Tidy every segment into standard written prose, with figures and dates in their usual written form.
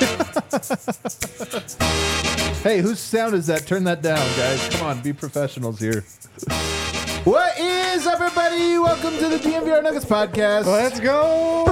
Hey, whose sound is that? Turn that down, guys. Come on, be professionals here. What is up, everybody? Welcome to the DNVR Nuggets podcast. Let's go.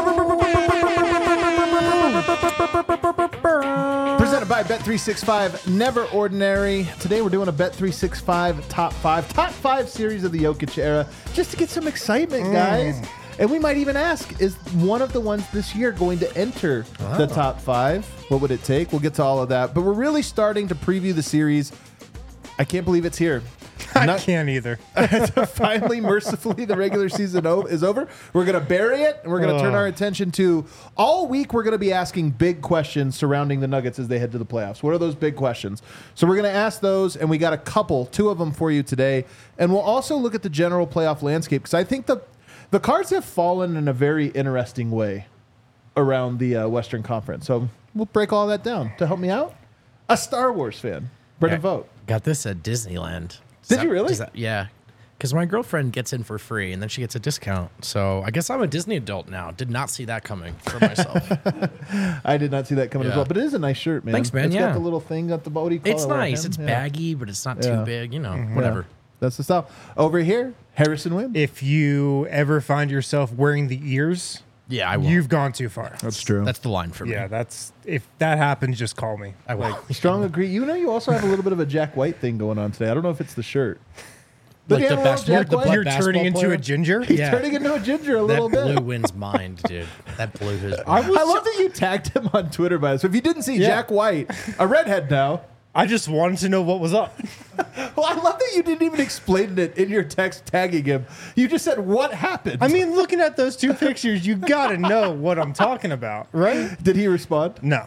Presented by Bet365, Never Ordinary. Today we're doing a Bet365 top five series of the Jokic era, just to get some excitement, guys. And we might even ask, is one of the ones this year going to enter the top five? What would it take? We'll get to all of that. But we're really starting to preview the series. I can't believe it's here. I can't either. Finally, mercifully, the regular season is over. We're going to bury it, and we're going to turn our attention to all week. We're going to be asking big questions surrounding the Nuggets as they head to the playoffs. What are those big questions? So we're going to ask those, and we got two of them for you today. And we'll also look at the general playoff landscape, because I think the cards have fallen in a very interesting way around the Western Conference. So we'll break all that down. To help me out, a Star Wars fan, Brendan Vogt. Got this at Disneyland. Did you really? Yeah. Because my girlfriend gets in for free, and then she gets a discount. So I guess I'm a Disney adult now. Did not see that coming for myself. I did not see that coming as well. But it is a nice shirt, man. Thanks, man. It's got the little thing at the body. It's nice. It's baggy, but it's not too big. Whatever. That's the style. Over here, Harrison Wind. If you ever find yourself wearing the ears, I will. You've gone too far. That's true. That's the line for me. Yeah, if that happens, just call me. I will. Strong agree. You also have a little bit of a Jack White thing going on today. I don't know if it's the shirt. Like the You're turning into a ginger? He's turning into a ginger a little bit. That blew Wynn's mind, dude. That blew his mind. I love that you tagged him on Twitter, by the way. So if you didn't see Jack White, a redhead now. I just wanted to know what was up. Well, I love that you didn't even explain it in your text tagging him. You just said, what happened? I mean, looking at those two pictures, you got to know what I'm talking about, right? Did he respond? No.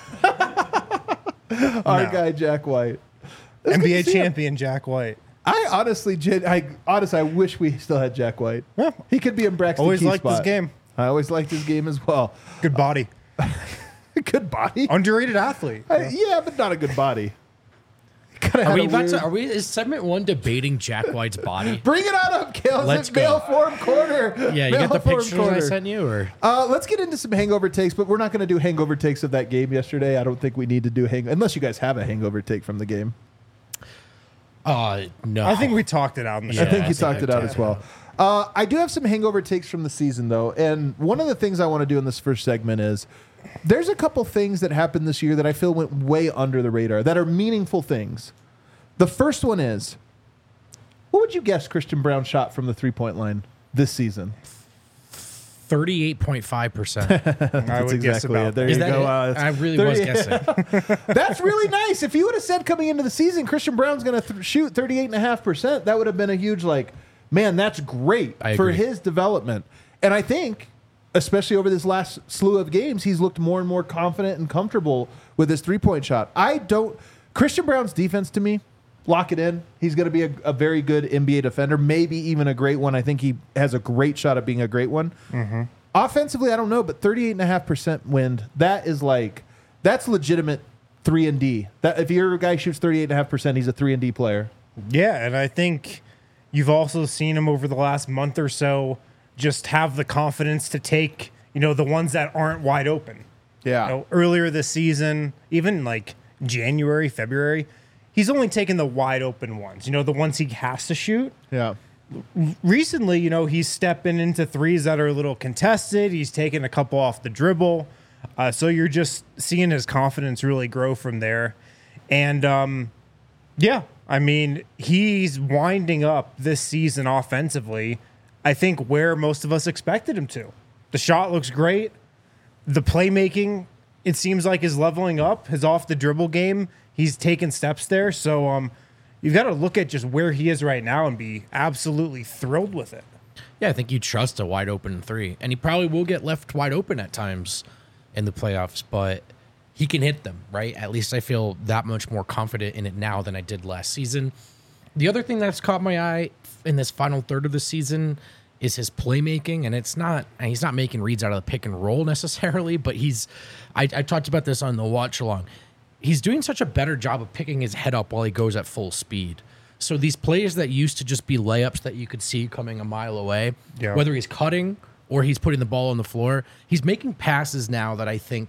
Our guy, Jack White. NBA champion Jack White. I honestly wish we still had Jack White. Yeah. He could be in Braxton Always Key liked spot. his game. I always liked his game as well. Good body. Good body. Underrated athlete. Yeah, but not a good body. Is segment one debating Jack White's body? Bring it on up, Kales. Let's it's Mail go. Form Corner. Yeah, you Mail got the Form pictures Corner. I sent you? Or let's get into some hangover takes, but we're not going to do hangover takes of that game yesterday. I don't think we need to do unless you guys have a hangover take from the game. No. I think we talked it out in the show. I think you talked it out as well. I do have some hangover takes from the season, though. And one of the things I want to do in this first segment is there's a couple things that happened this year that I feel went way under the radar that are meaningful things. The first one is, what would you guess Christian Braun shot from the three-point line this season? 38.5%. I would guess about it. There Is you that go. it? I really was guessing. That's really nice. If you would have said coming into the season, Christian Braun's going to shoot 38.5%, that would have been a huge, man, that's great for his development. And I think, especially over this last slew of games, he's looked more and more confident and comfortable with his three-point shot. Christian Braun's defense, to me, lock it in. He's going to be a very good NBA defender, maybe even a great one. I think he has a great shot at being a great one. Mm-hmm. Offensively, I don't know, but 38.5% wind, that's legitimate 3-and-D. That if your guy shoots 38.5%, he's a 3-and-D player. Yeah, and I think you've also seen him over the last month or so just have the confidence to take, the ones that aren't wide open. Yeah. Earlier this season, even January, February, he's only taken the wide open ones, the ones he has to shoot. Yeah. Recently, he's stepping into threes that are a little contested. He's taken a couple off the dribble. So you're just seeing his confidence really grow from there. And, he's winding up this season offensively, I think, where most of us expected him to. The shot looks great. The playmaking, it seems like, is leveling up. His off-the-dribble game, he's taken steps there. So you've got to look at just where he is right now and be absolutely thrilled with it. Yeah, I think you trust a wide-open three. And he probably will get left wide open at times in the playoffs, but he can hit them, right? At least I feel that much more confident in it now than I did last season. The other thing that's caught my eye in this final third of the season is his playmaking, and he's not making reads out of the pick and roll necessarily, but I talked about this on the watch along. He's doing such a better job of picking his head up while he goes at full speed. So these plays that used to just be layups that you could see coming a mile away, whether he's cutting or he's putting the ball on the floor, he's making passes now that I think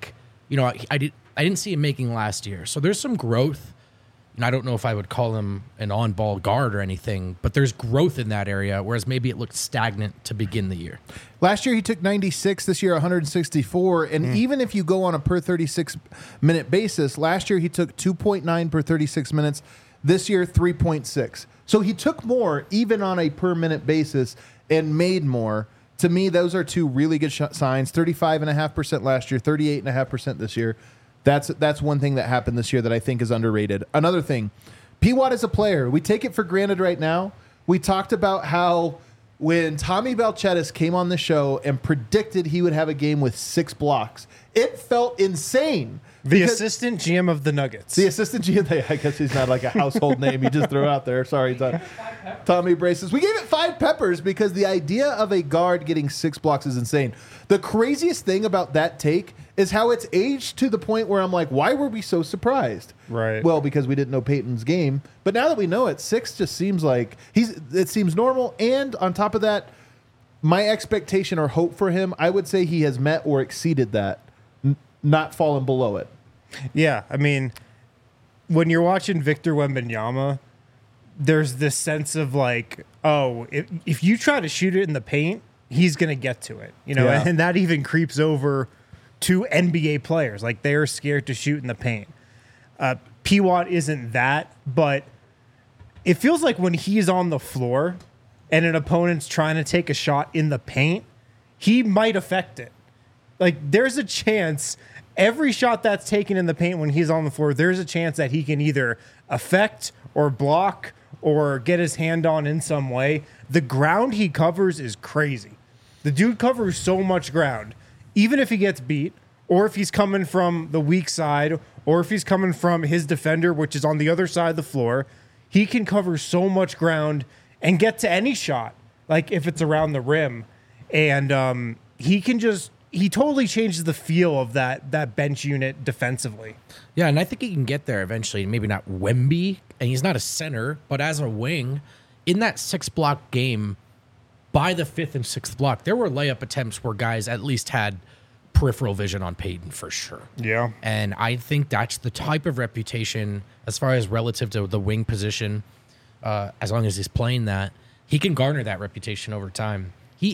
I didn't see him making last year. So there's some growth. And I don't know if I would call him an on-ball guard or anything, but there's growth in that area, whereas maybe it looked stagnant to begin the year. Last year he took 96, this year 164, and even if you go on a per 36-minute basis, last year he took 2.9 per 36 minutes, this year 3.6. So he took more even on a per-minute basis and made more. To me, those are two really good signs. 35.5% last year, 38.5% this year. That's one thing that happened this year that I think is underrated. Another thing, P. Watt is a player. We take it for granted right now. We talked about how when Tommy Balcetis came on the show and predicted he would have a game with 6 blocks, it felt insane. The assistant GM of the Nuggets. The assistant GM, I guess he's not like a household name you just throw out there. Sorry, Tommy Braces. We gave it 5 peppers because the idea of a guard getting 6 blocks is insane. The craziest thing about that take is how it's aged to the point where I'm like, why were we so surprised? Right. Well, because we didn't know Peyton's game. But now that we know it, 6 just seems like it seems normal. And on top of that, my expectation or hope for him, I would say he has met or exceeded that, not fallen below it. Yeah, I mean, when you're watching Victor Wembanyama, there's this sense of like, oh, if you try to shoot it in the paint, he's going to get to it, Yeah. And that even creeps over to NBA players. Like, they are scared to shoot in the paint. P. Watt isn't that, but it feels like when he's on the floor and an opponent's trying to take a shot in the paint, he might affect it. Like, there's a chance every shot that's taken in the paint when he's on the floor, there's a chance that he can either affect or block or get his hand on in some way. The ground he covers is crazy. The dude covers so much ground. Even if he gets beat, or if he's coming from the weak side, or if he's coming from his defender, which is on the other side of the floor, he can cover so much ground and get to any shot, like if it's around the rim. And he totally changes the feel of that bench unit defensively. Yeah, and I think he can get there eventually. Maybe not Wemby, and he's not a center, but as a wing, in that 6-block game, by the 5th and 6th block, there were layup attempts where guys at least had peripheral vision on Peyton for sure. Yeah. And I think that's the type of reputation, as far as relative to the wing position, as long as he's playing that, he can garner that reputation over time.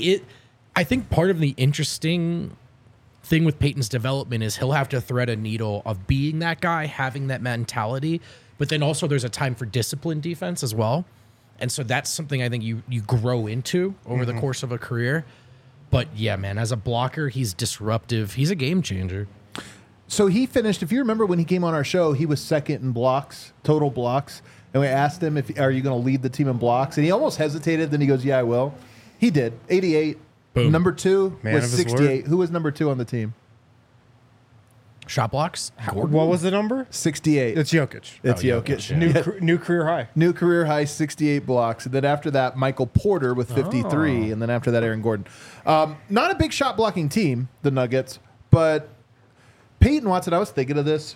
I think part of the interesting thing with Peyton's development is he'll have to thread a needle of being that guy, having that mentality, but then also there's a time for disciplined defense as well. And so that's something I think you grow into over the course of a career. But yeah, man, as a blocker, he's disruptive. He's a game changer. So he finished, if you remember when he came on our show, he was second in blocks, total blocks. And we asked him, are you going to lead the team in blocks? And he almost hesitated. Then he goes, yeah, I will. He did. 88. Boom. Number 2 Man was of his 68. word. Who was number 2 on the team? Shot blocks? Gordon? What was the number? 68. It's Jokic. It's Oh, Jokic. Jokic, yeah. New career high. New career high, 68 blocks. And then after that, Michael Porter with 53. And then after that, Aaron Gordon. Not a big shot blocking team, the Nuggets, but Peyton Watson, I was thinking of this.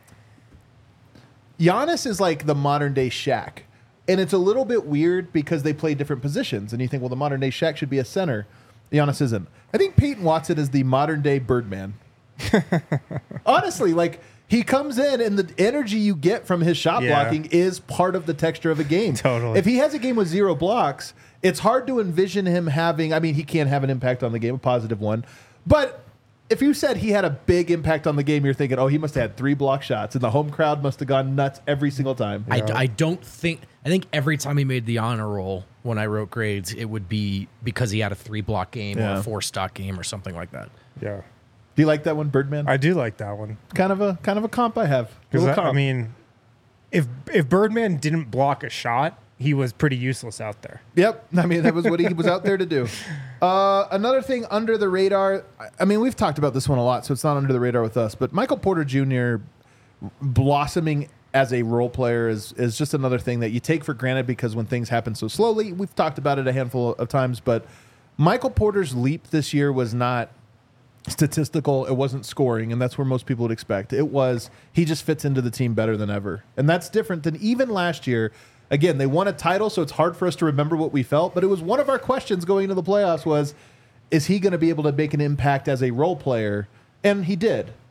Giannis is like the modern day Shaq. And it's a little bit weird because they play different positions. And you think, well, the modern day Shaq should be a center. Giannis isn't. I think Peyton Watson is the modern day Birdman. Honestly, like, he comes in and the energy you get from his shot blocking is part of the texture of a game. Totally. If he has a game with 0 blocks, it's hard to envision him having, I mean, he can have an impact on the game, a positive one. But if you said he had a big impact on the game, you're thinking, oh, he must have had 3 block shots and the home crowd must have gone nuts every single time. I think every time he made the honor roll when I wrote grades, it would be because he had a 3-block game or a 4-stock game or something like that. Yeah. Do you like that one, Birdman? I do like that one. Kind of a comp I have. Little Because comp. I mean, if Birdman didn't block a shot, he was pretty useless out there. Yep. I mean, that was what he was out there to do. Another thing under the radar, I mean, we've talked about this one a lot, so it's not under the radar with us, but Michael Porter Jr. blossoming as a role player is just another thing that you take for granted because when things happen so slowly, we've talked about it a handful of times, but Michael Porter's leap this year was not statistical. It wasn't scoring, and that's where most people would expect. It was he just fits into the team better than ever. And that's different than even last year. Again, they won a title, so it's hard for us to remember what we felt, but it was one of our questions going into the playoffs was, is he going to be able to make an impact as a role player? And he did.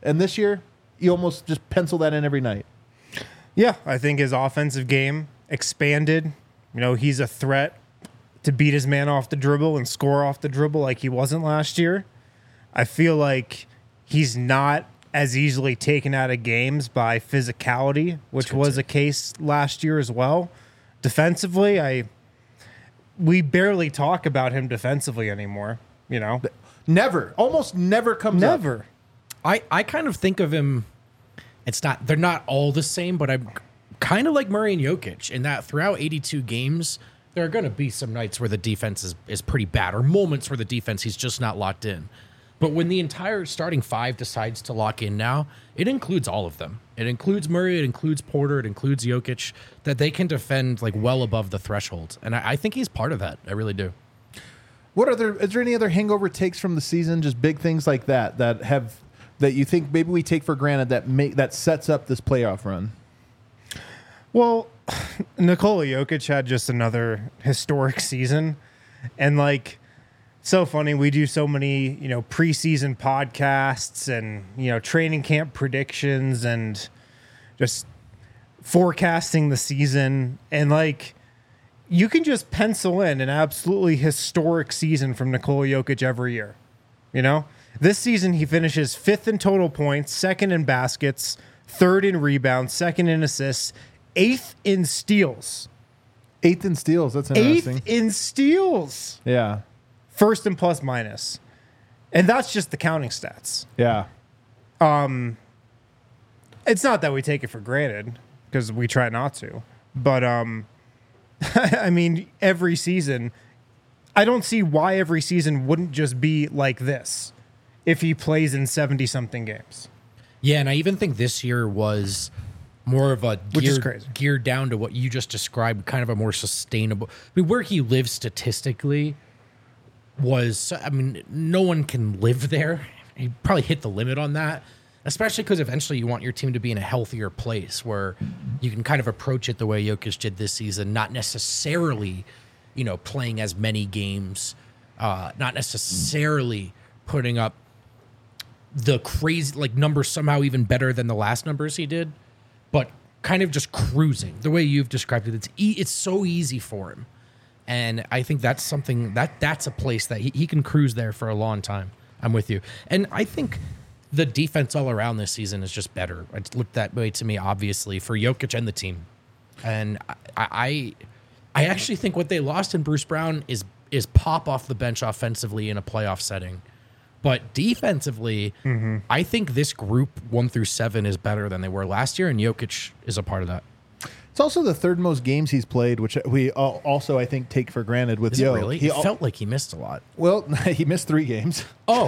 And this year, you almost just pencil that in every night. Yeah, I think his offensive game expanded. You know, he's a threat to beat his man off the dribble and score off the dribble like he wasn't last year. I feel like he's not as easily taken out of games by physicality, which was a case last year as well. Defensively, we barely talk about him defensively anymore, you know? Almost never comes up. Never. I kind of think of him, they're not all the same, but I'm kind of like Murray and Jokic in that throughout 82 games, there are going to be some nights where the defense is pretty bad, or moments where the defense, he's just not locked in. But when the entire starting five decides to lock in now, it includes all of them. It includes Murray, it includes Porter, it includes Jokic, that they can defend like well above the threshold. And I think he's part of that. I really do. Is there any other hangover takes from the season? Just big things like that you think maybe we take for granted that sets up this playoff run? Well, Nikola Jokic had just another historic season. And like, so funny. We do so many, preseason podcasts and, training camp predictions and just forecasting the season. And like, you can just pencil in an absolutely historic season from Nikola Jokic every year. This season, he finishes 5th in total points, 2nd in baskets, 3rd in rebounds, 2nd in assists, 8th in steals. 8th in steals. That's interesting. 8th in steals. Yeah. 1st in plus minus. And that's just the counting stats. Yeah. It's not that we take it for granted, because we try not to. But, I mean, every season, I don't see why every season wouldn't just be like this if he plays in 70-something games. Yeah, and I even think this year was more of a geared down to what you just described, kind of a more sustainable. I mean, where he lives statistically was, no one can live there. He probably hit the limit on that, especially because eventually you want your team to be in a healthier place where you can kind of approach it the way Jokic did this season, not necessarily, playing as many games, not necessarily putting up the crazy numbers somehow even better than the last numbers he did, but kind of just cruising the way you've described it. It's so easy for him. And I think that's something that's a place that he can cruise there for a long time. I'm with you. And I think the defense all around this season is just better. It looked that way to me, obviously, for Jokic and the team. And I actually think what they lost in Bruce Brown is pop off the bench offensively in a playoff setting. But defensively, I think this group 1 through 7 is better than they were last year, and Jokic is a part of that. It's also the 3rd most games he's played, which we also, I think, take for granted with Joe. Really? He felt like he missed a lot. Well, he missed 3 games. Oh.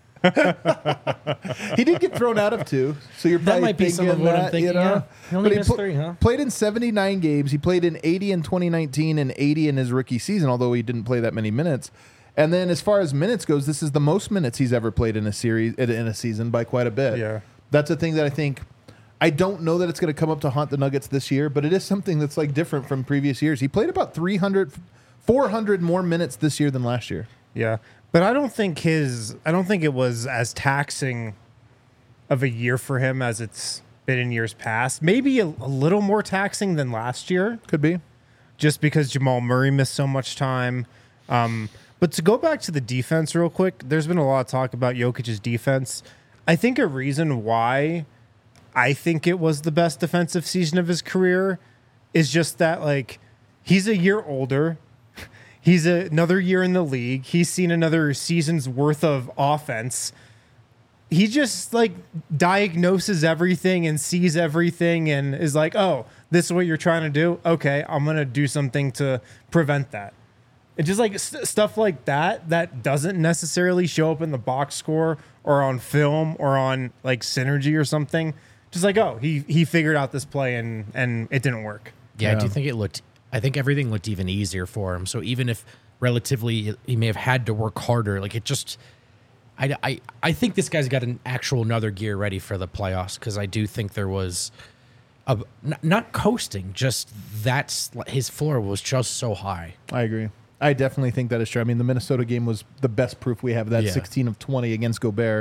He did get thrown out of 2, so you're probably that might be some of what I'm thinking. Yeah. He only missed 3, huh? Played in 79 games. He played in 80 in 2019 and 80 in his rookie season, although he didn't play that many minutes. And then as far as minutes goes, this is the most minutes he's ever played in a season by quite a bit. Yeah. That's a thing that I don't know that it's going to come up to haunt the Nuggets this year, but it is something that's different from previous years. He played about 400 more minutes this year than last year. Yeah. But I don't think it was as taxing of a year for him as it's been in years past. Maybe a little more taxing than last year. Could be. Just because Jamal Murray missed so much time. But to go back to the defense real quick, there's been a lot of talk about Jokic's defense. I think a reason why I think it was the best defensive season of his career is just that, he's a year older. He's another year in the league. He's seen another season's worth of offense. He just, diagnoses everything and sees everything and is like, oh, this is what you're trying to do? Okay, I'm going to do something to prevent that. It's just stuff like that doesn't necessarily show up in the box score or on film or on synergy or something. Just he figured out this play and it didn't work. Yeah, I do think I think everything looked even easier for him. So even if relatively he may have had to work harder, I think this guy's got an actual another gear ready for the playoffs, because I do think there was not coasting, just his floor was just so high. I agree. I definitely think that is true. I mean, the Minnesota game was the best proof we have of that. 16 of 20 against Gobert.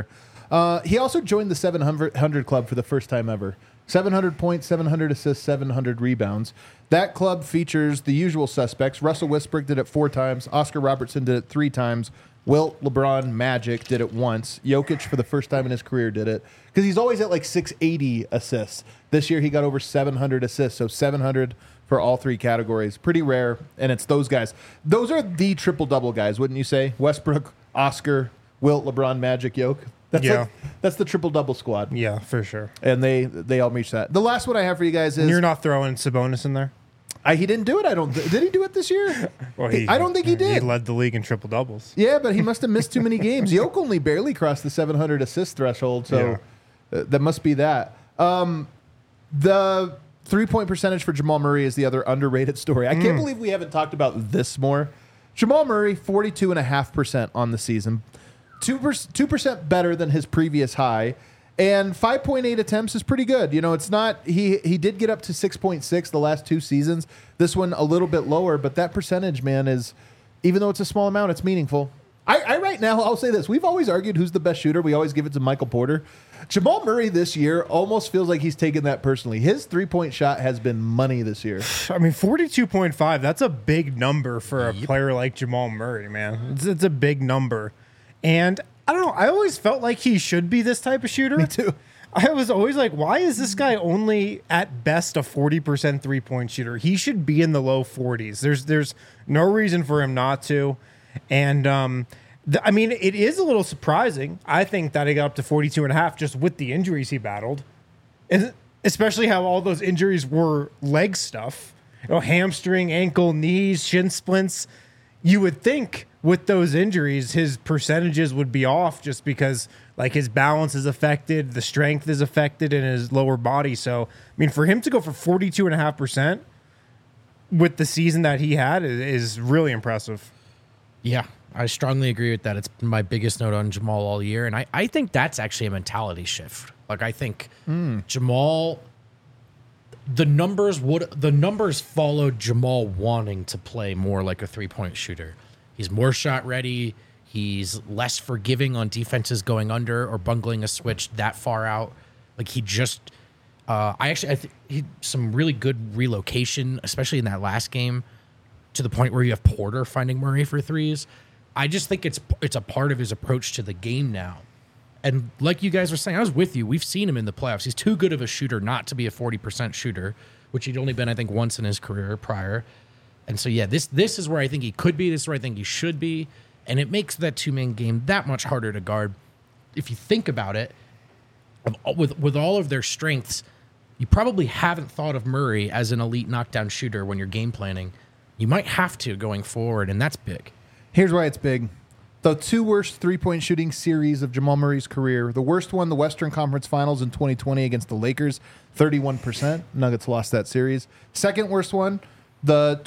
He also joined the 700 club for the first time ever. 700 points, 700 assists, 700 rebounds. That club features the usual suspects. Russell Westbrook did it 4 times. Oscar Robertson did it 3 times. Wilt, LeBron, Magic did it once. Jokic, for the first time in his career, did it. Because he's always at like 680 assists. This year, he got over 700 assists. So 700 for all 3 categories. Pretty rare. And it's those guys. Those are the triple-double guys, wouldn't you say? Westbrook, Oscar, Wilt, LeBron, Magic, Jokic. That's the triple-double squad. Yeah, for sure. And they all reach that. The last one I have for you guys is... And you're not throwing Sabonis in there? He didn't do it. Did he do it this year? Well, I don't think he did. He led the league in triple doubles. Yeah, but he must have missed too many games. Jokic only barely crossed the 700 assist threshold, so that must be that. The 3-point percentage for Jamal Murray is the other underrated story. I can't believe we haven't talked about this more. Jamal Murray, 42.5% on the season. 2% better than his previous high. And 5.8 attempts is pretty good. You know, it's not... He did get up to 6.6 the last 2 seasons. This one a little bit lower, but that percentage, man, is... Even though it's a small amount, it's meaningful. I right now, I'll say this. We've always argued who's the best shooter. We always give it to Michael Porter. Jamal Murray this year almost feels like he's taken that personally. His 3-point shot has been money this year. I mean, 42.5, that's a big number for a player like Jamal Murray, man. It's a big number. And... I don't know. I always felt like he should be this type of shooter. Me too. I was always like, why is this guy only at best a 40% 3-point shooter? He should be in the low 40s. There's no reason for him not to. And I mean, it is a little surprising. I think that he got up to 42.5 just with the injuries he battled, and especially how all those injuries were leg stuff. You know, hamstring, ankle, knees, shin splints. You would think with those injuries, his percentages would be off just because like his balance is affected, the strength is affected in his lower body. So, I mean, for him to go for 42.5% with the season that he had is really impressive. Yeah, I strongly agree with that. It's my biggest note on Jamal all year. And I think that's actually a mentality shift. Like, I think Jamal, the numbers followed Jamal wanting to play more like a 3-point shooter. He's more shot ready. He's less forgiving on defenses going under or bungling a switch that far out. Like he just, I think he some really good relocation, especially in that last game, to the point where you have Porter finding Murray for threes. I just think it's a part of his approach to the game now. And like you guys were saying, I was with you. We've seen him in the playoffs. He's too good of a shooter not to be a 40% shooter, which he'd only been, I think, once in his career prior. And so, yeah, this is where I think he could be. This is where I think he should be. And it makes that 2-man game that much harder to guard. If you think about it, with all of their strengths, you probably haven't thought of Murray as an elite knockdown shooter when you're game planning. You might have to going forward, and that's big. Here's why it's big. The 2 worst 3-point shooting series of Jamal Murray's career. The worst one, the Western Conference Finals in 2020 against the Lakers, 31%. Nuggets lost that series. Second worst one, the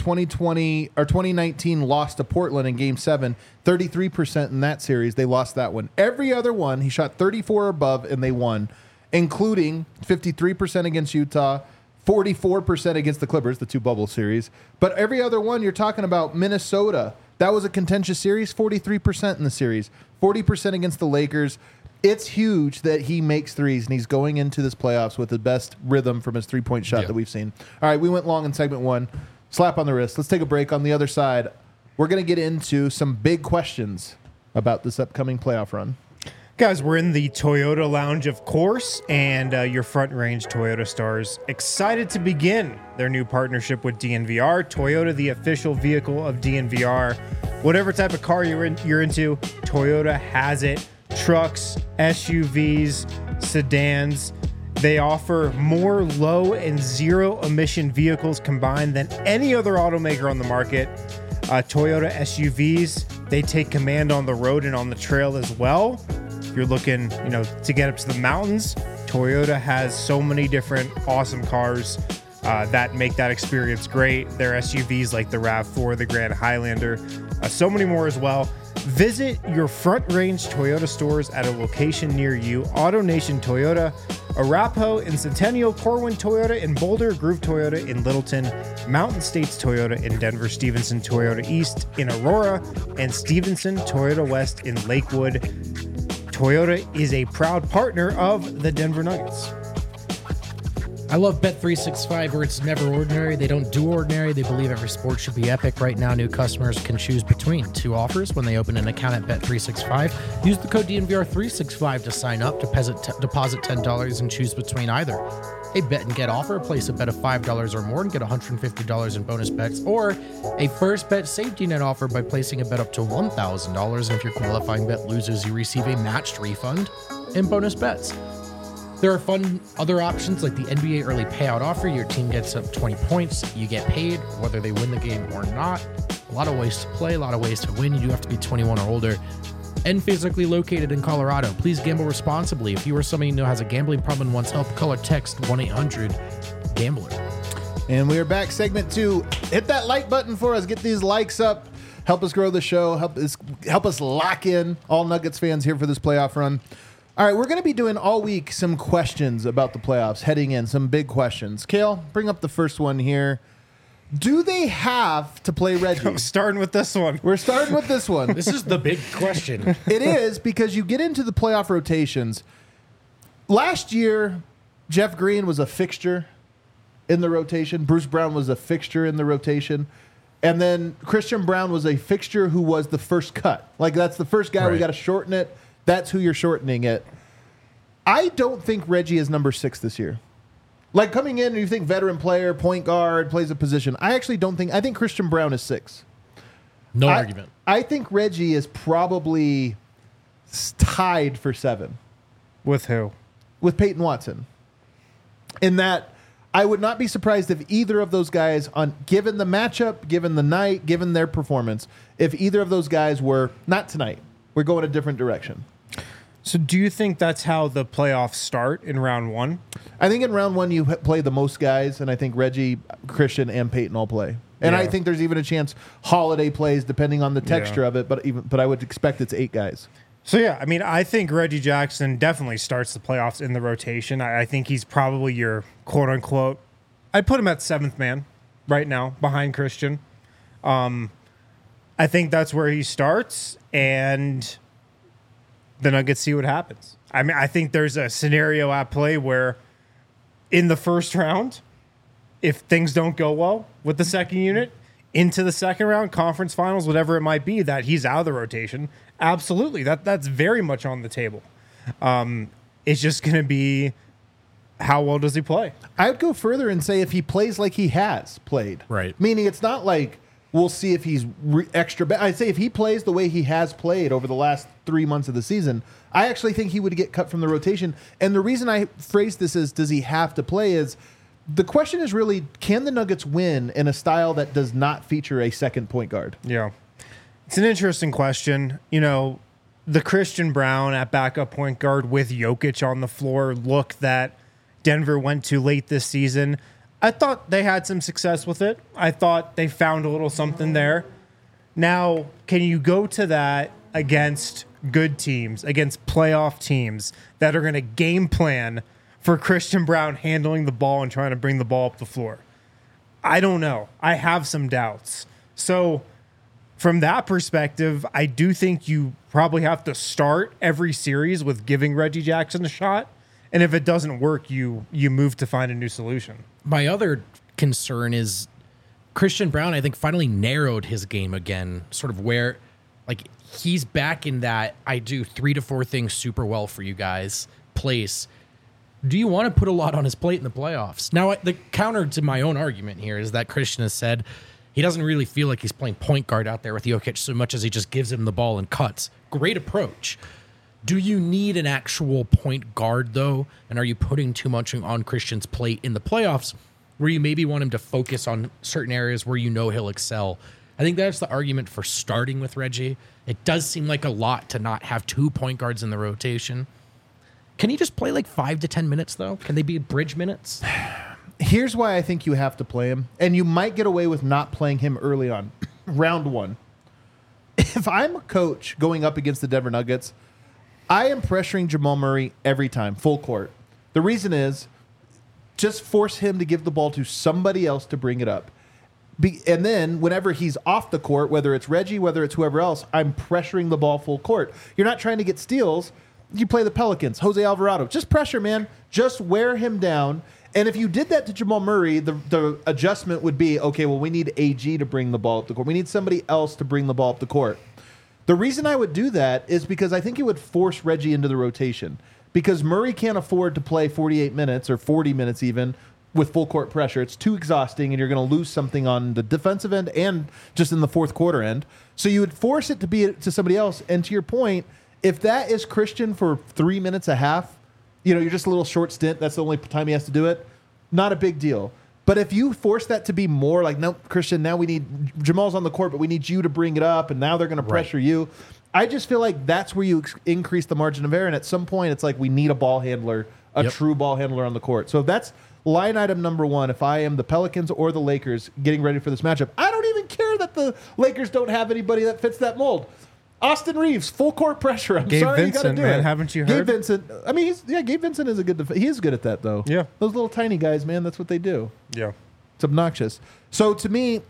2019 loss to Portland in Game 7, 33% in that series. They lost that one. Every other one, he shot 34 or above, and they won, including 53% against Utah, 44% against the Clippers, the 2 bubble series. But every other one, you're talking about Minnesota. That was a contentious series, 43% in the series, 40% against the Lakers. It's huge that he makes threes, and he's going into this playoffs with the best rhythm from his 3-point shot that we've seen. All right, we went long in segment 1. Slap on the wrist. Let's take a break. On the other side, we're going to get into some big questions about this upcoming playoff run. Guys, we're in the Toyota Lounge, of course, and your Front Range Toyota stars excited to begin their new partnership with DNVR. Toyota, the official vehicle of DNVR. Whatever type of car you're into, Toyota has it. Trucks, SUVs, sedans. They offer more low and zero emission vehicles combined than any other automaker on the market. Toyota SUVs, they take command on the road and on the trail as well. If you're looking, to get up to the mountains, Toyota has so many different awesome cars that make that experience great. Their SUVs like the RAV4, the Grand Highlander, so many more as well. Visit your Front Range Toyota stores at a location near you. AutoNation Toyota, Arapahoe in Centennial, Corwin Toyota in Boulder, Groove Toyota in Littleton, Mountain States Toyota in Denver, Stevenson Toyota East in Aurora, and Stevenson Toyota West in Lakewood. Toyota is a proud partner of the Denver Nuggets. I love Bet365 where it's never ordinary. They don't do ordinary. They believe every sport should be epic. Right now, new customers can choose between two offers when they open an account at Bet365. Use the code DNVR365 to sign up, deposit $10 and choose between either a bet and get offer, place a bet of $5 or more and get $150 in bonus bets, or a first bet safety net offer by placing a bet up to $1,000. And if your qualifying bet loses, you receive a matched refund and bonus bets. There are fun other options like the NBA early payout offer. Your team gets up 20 points. You get paid whether they win the game or not. A lot of ways to play, a lot of ways to win. You do have to be 21 or older and physically located in Colorado. Please gamble responsibly. If you or somebody you know has a gambling problem and wants help, call or text 1-800-GAMBLER. And we are back. Segment 2. Hit that like button for us. Get these likes up. Help us grow the show. Help us lock in all Nuggets fans here for this playoff run. All right, we're going to be doing all week some questions about the playoffs heading in, some big questions. Kale, bring up the first one here. Do they have to play Reggie? I'm starting with this one. We're starting with this one. This is the big question. It is, because you get into the playoff rotations. Last year, Jeff Green was a fixture in the rotation. Bruce Brown was a fixture in the rotation. And then Christian Braun was a fixture who was the first cut. Like, that's the first guy. Right. We got to shorten it. That's who you're shortening it. I don't think Reggie is number 6 this year. Like, coming in, you think veteran player, point guard, plays a position. I actually don't think. I think Christian Braun is 6. No argument. I think Reggie is probably tied for 7. With who? With Peyton Watson. In that, I would not be surprised if either of those guys, given the matchup, given the night, given their performance, if either of those guys were, not tonight, we're going a different direction. So do you think that's how the playoffs start in round 1? I think in round 1 you play the most guys, and I think Reggie, Christian, and Peyton all play. And I think there's even a chance Holiday plays, depending on the texture of it, but I would expect it's 8 guys. So, yeah, I mean, I think Reggie Jackson definitely starts the playoffs in the rotation. I think he's probably your quote-unquote, I'd put him at 7th man right now, behind Christian. I think that's where he starts, and the Nuggets see what happens. I mean, I think there's a scenario at play where in the first round, if things don't go well with the second unit, into the second round, conference finals, whatever it might be, that he's out of the rotation. Absolutely. That's very much on the table. It's just going to be how well does he play? I'd go further and say if he plays like he has played. Right. Meaning it's not like we'll see if he's extra bad. I'd say if he plays the way he has played over the last 3 months of the season, I actually think he would get cut from the rotation. And the reason I phrase this as does he have to play is the question is really, can the Nuggets win in a style that does not feature a second point guard? Yeah. It's an interesting question. You know, the Christian Braun at backup point guard with Jokic on the floor look that Denver went to late this season, I thought they had some success with it. I thought they found a little something there. Now, can you go to that against good teams, against playoff teams that are going to game plan for Christian Braun handling the ball and trying to bring the ball up the floor? I don't know. I have some doubts. So from that perspective, I do think you probably have to start every series with giving Reggie Jackson a shot. And if it doesn't work, you move to find a new solution. My other concern is Christian Braun, I think, finally narrowed his game again, sort of where, like, he's back in that I do 3 to 4 things super well for you guys place. Do you want to put a lot on his plate in the playoffs? Now, the counter to my own argument here is that Christian has said he doesn't really feel like he's playing point guard out there with Jokic so much as he just gives him the ball and cuts. Great approach. Do you need an actual point guard, though? And are you putting too much on Christian's plate in the playoffs where you maybe want him to focus on certain areas where you know he'll excel? I think that's the argument for starting with Reggie. It does seem like a lot to not have 2 point guards in the rotation. Can he just play like 5 to 10 minutes, though? Can they be bridge minutes? Here's why I think you have to play him, and you might get away with not playing him early on. Round 1. If I'm a coach going up against the Denver Nuggets, I am pressuring Jamal Murray every time, full court. The reason is just force him to give the ball to somebody else to bring it up. And then whenever he's off the court, whether it's Reggie, whether it's whoever else, I'm pressuring the ball full court. You're not trying to get steals. you play the Pelicans, Jose Alvarado. Just pressure, man. Just wear him down. And if you did that to Jamal Murray, the adjustment would be, okay, well, we need AG to bring the ball up the court. We need somebody else to bring the ball up the court. The reason I would do that is because I think it would force Reggie into the rotation. Because Murray can't afford to play 48 minutes or 40 minutes even with full court pressure. It's too exhausting, and you're going to lose something on the defensive end and just in the fourth quarter end. So you would force it to be to somebody else. And to your point, if that is Christian for 3 minutes a half, you're just a little short stint. That's the only time he has to do it. Not a big deal. But if you force that to be more like, no, Christian, now we need Jamal's on the court, but we need you to bring it up, and now they're going to pressure you. I just feel like that's where you increase the margin of error. And at some point, it's like we need a ball handler, true ball handler on the court. So that's line item number one. If I am the Pelicans or the Lakers getting ready for this matchup, I don't even care that the Lakers don't have anybody that fits that mold. Austin Reeves, full court pressure. Gabe sorry, Vincent, you got to do man, it. haven't you heard? Gabe Vincent. I mean, Gabe Vincent is a good. He is good at that though. Yeah, those little tiny guys, man. That's what they do. Yeah, it's obnoxious. So to me,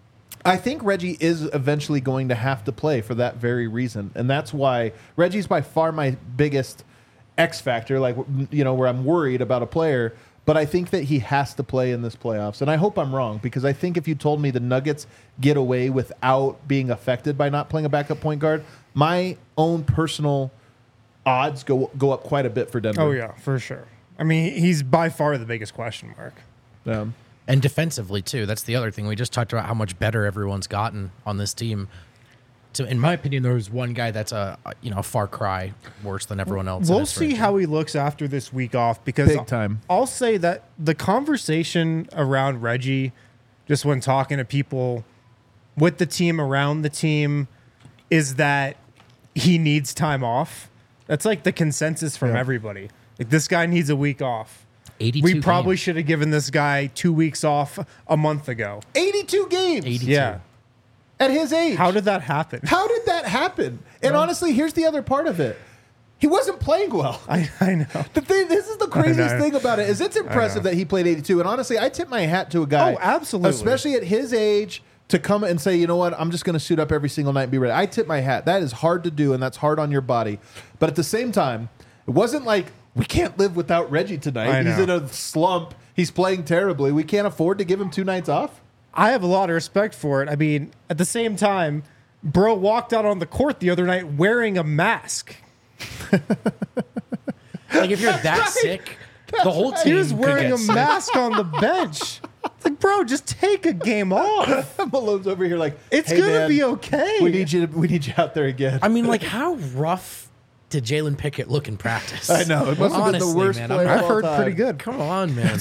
I think Reggie is eventually going to have to play for that very reason, and that's why Reggie's by far my biggest X factor. Like where I'm worried about a player. But I think that he has to play in this playoffs. And I hope I'm wrong, because I think if you told me the Nuggets get away without being affected by not playing a backup point guard, my own personal odds go up quite a bit for Denver. Oh, yeah, for sure. I mean, he's by far the biggest question mark. And defensively, too. That's the other thing. We just talked about how much better everyone's gotten on this team. So in my opinion, there's one guy that's a far cry worse than everyone else. We'll see how he looks after this week off, because big time. I'll say that the conversation around Reggie, just when talking to people with the team, around the team, is that he needs time off. That's like the consensus from everybody. Like, this guy needs a week off. 82 We probably games. should have given this guy 2 weeks off a month ago. 82 games. 82. Yeah. At his age. How did that happen? How did that happen? And honestly, here's the other part of it. He wasn't playing well. I know. This is the craziest thing about it, is it's impressive that he played 82. And honestly, I tip my hat to a guy. Oh, absolutely. Especially at his age, to come and say, you know what, I'm just going to suit up every single night and be ready. I tip my hat. That is hard to do, and that's hard on your body. But at the same time, it wasn't like, we can't live without Reggie tonight. He's in a slump. He's playing terribly. We can't afford to give him 2 nights off. I have a lot of respect for it. I mean, at the same time, bro walked out on the court the other night wearing a mask. Like, if you're that sick, the whole team He was could wearing get a sick. mask on the bench. It's like, bro, just take a game off. Malone's over here like, It's hey, gonna man, be okay. We need you out there again. I mean, like, how rough did Jalen Pickett look in practice? I know. It must have been the Honestly, worst man, player I've of all heard time. pretty good. Come on, man.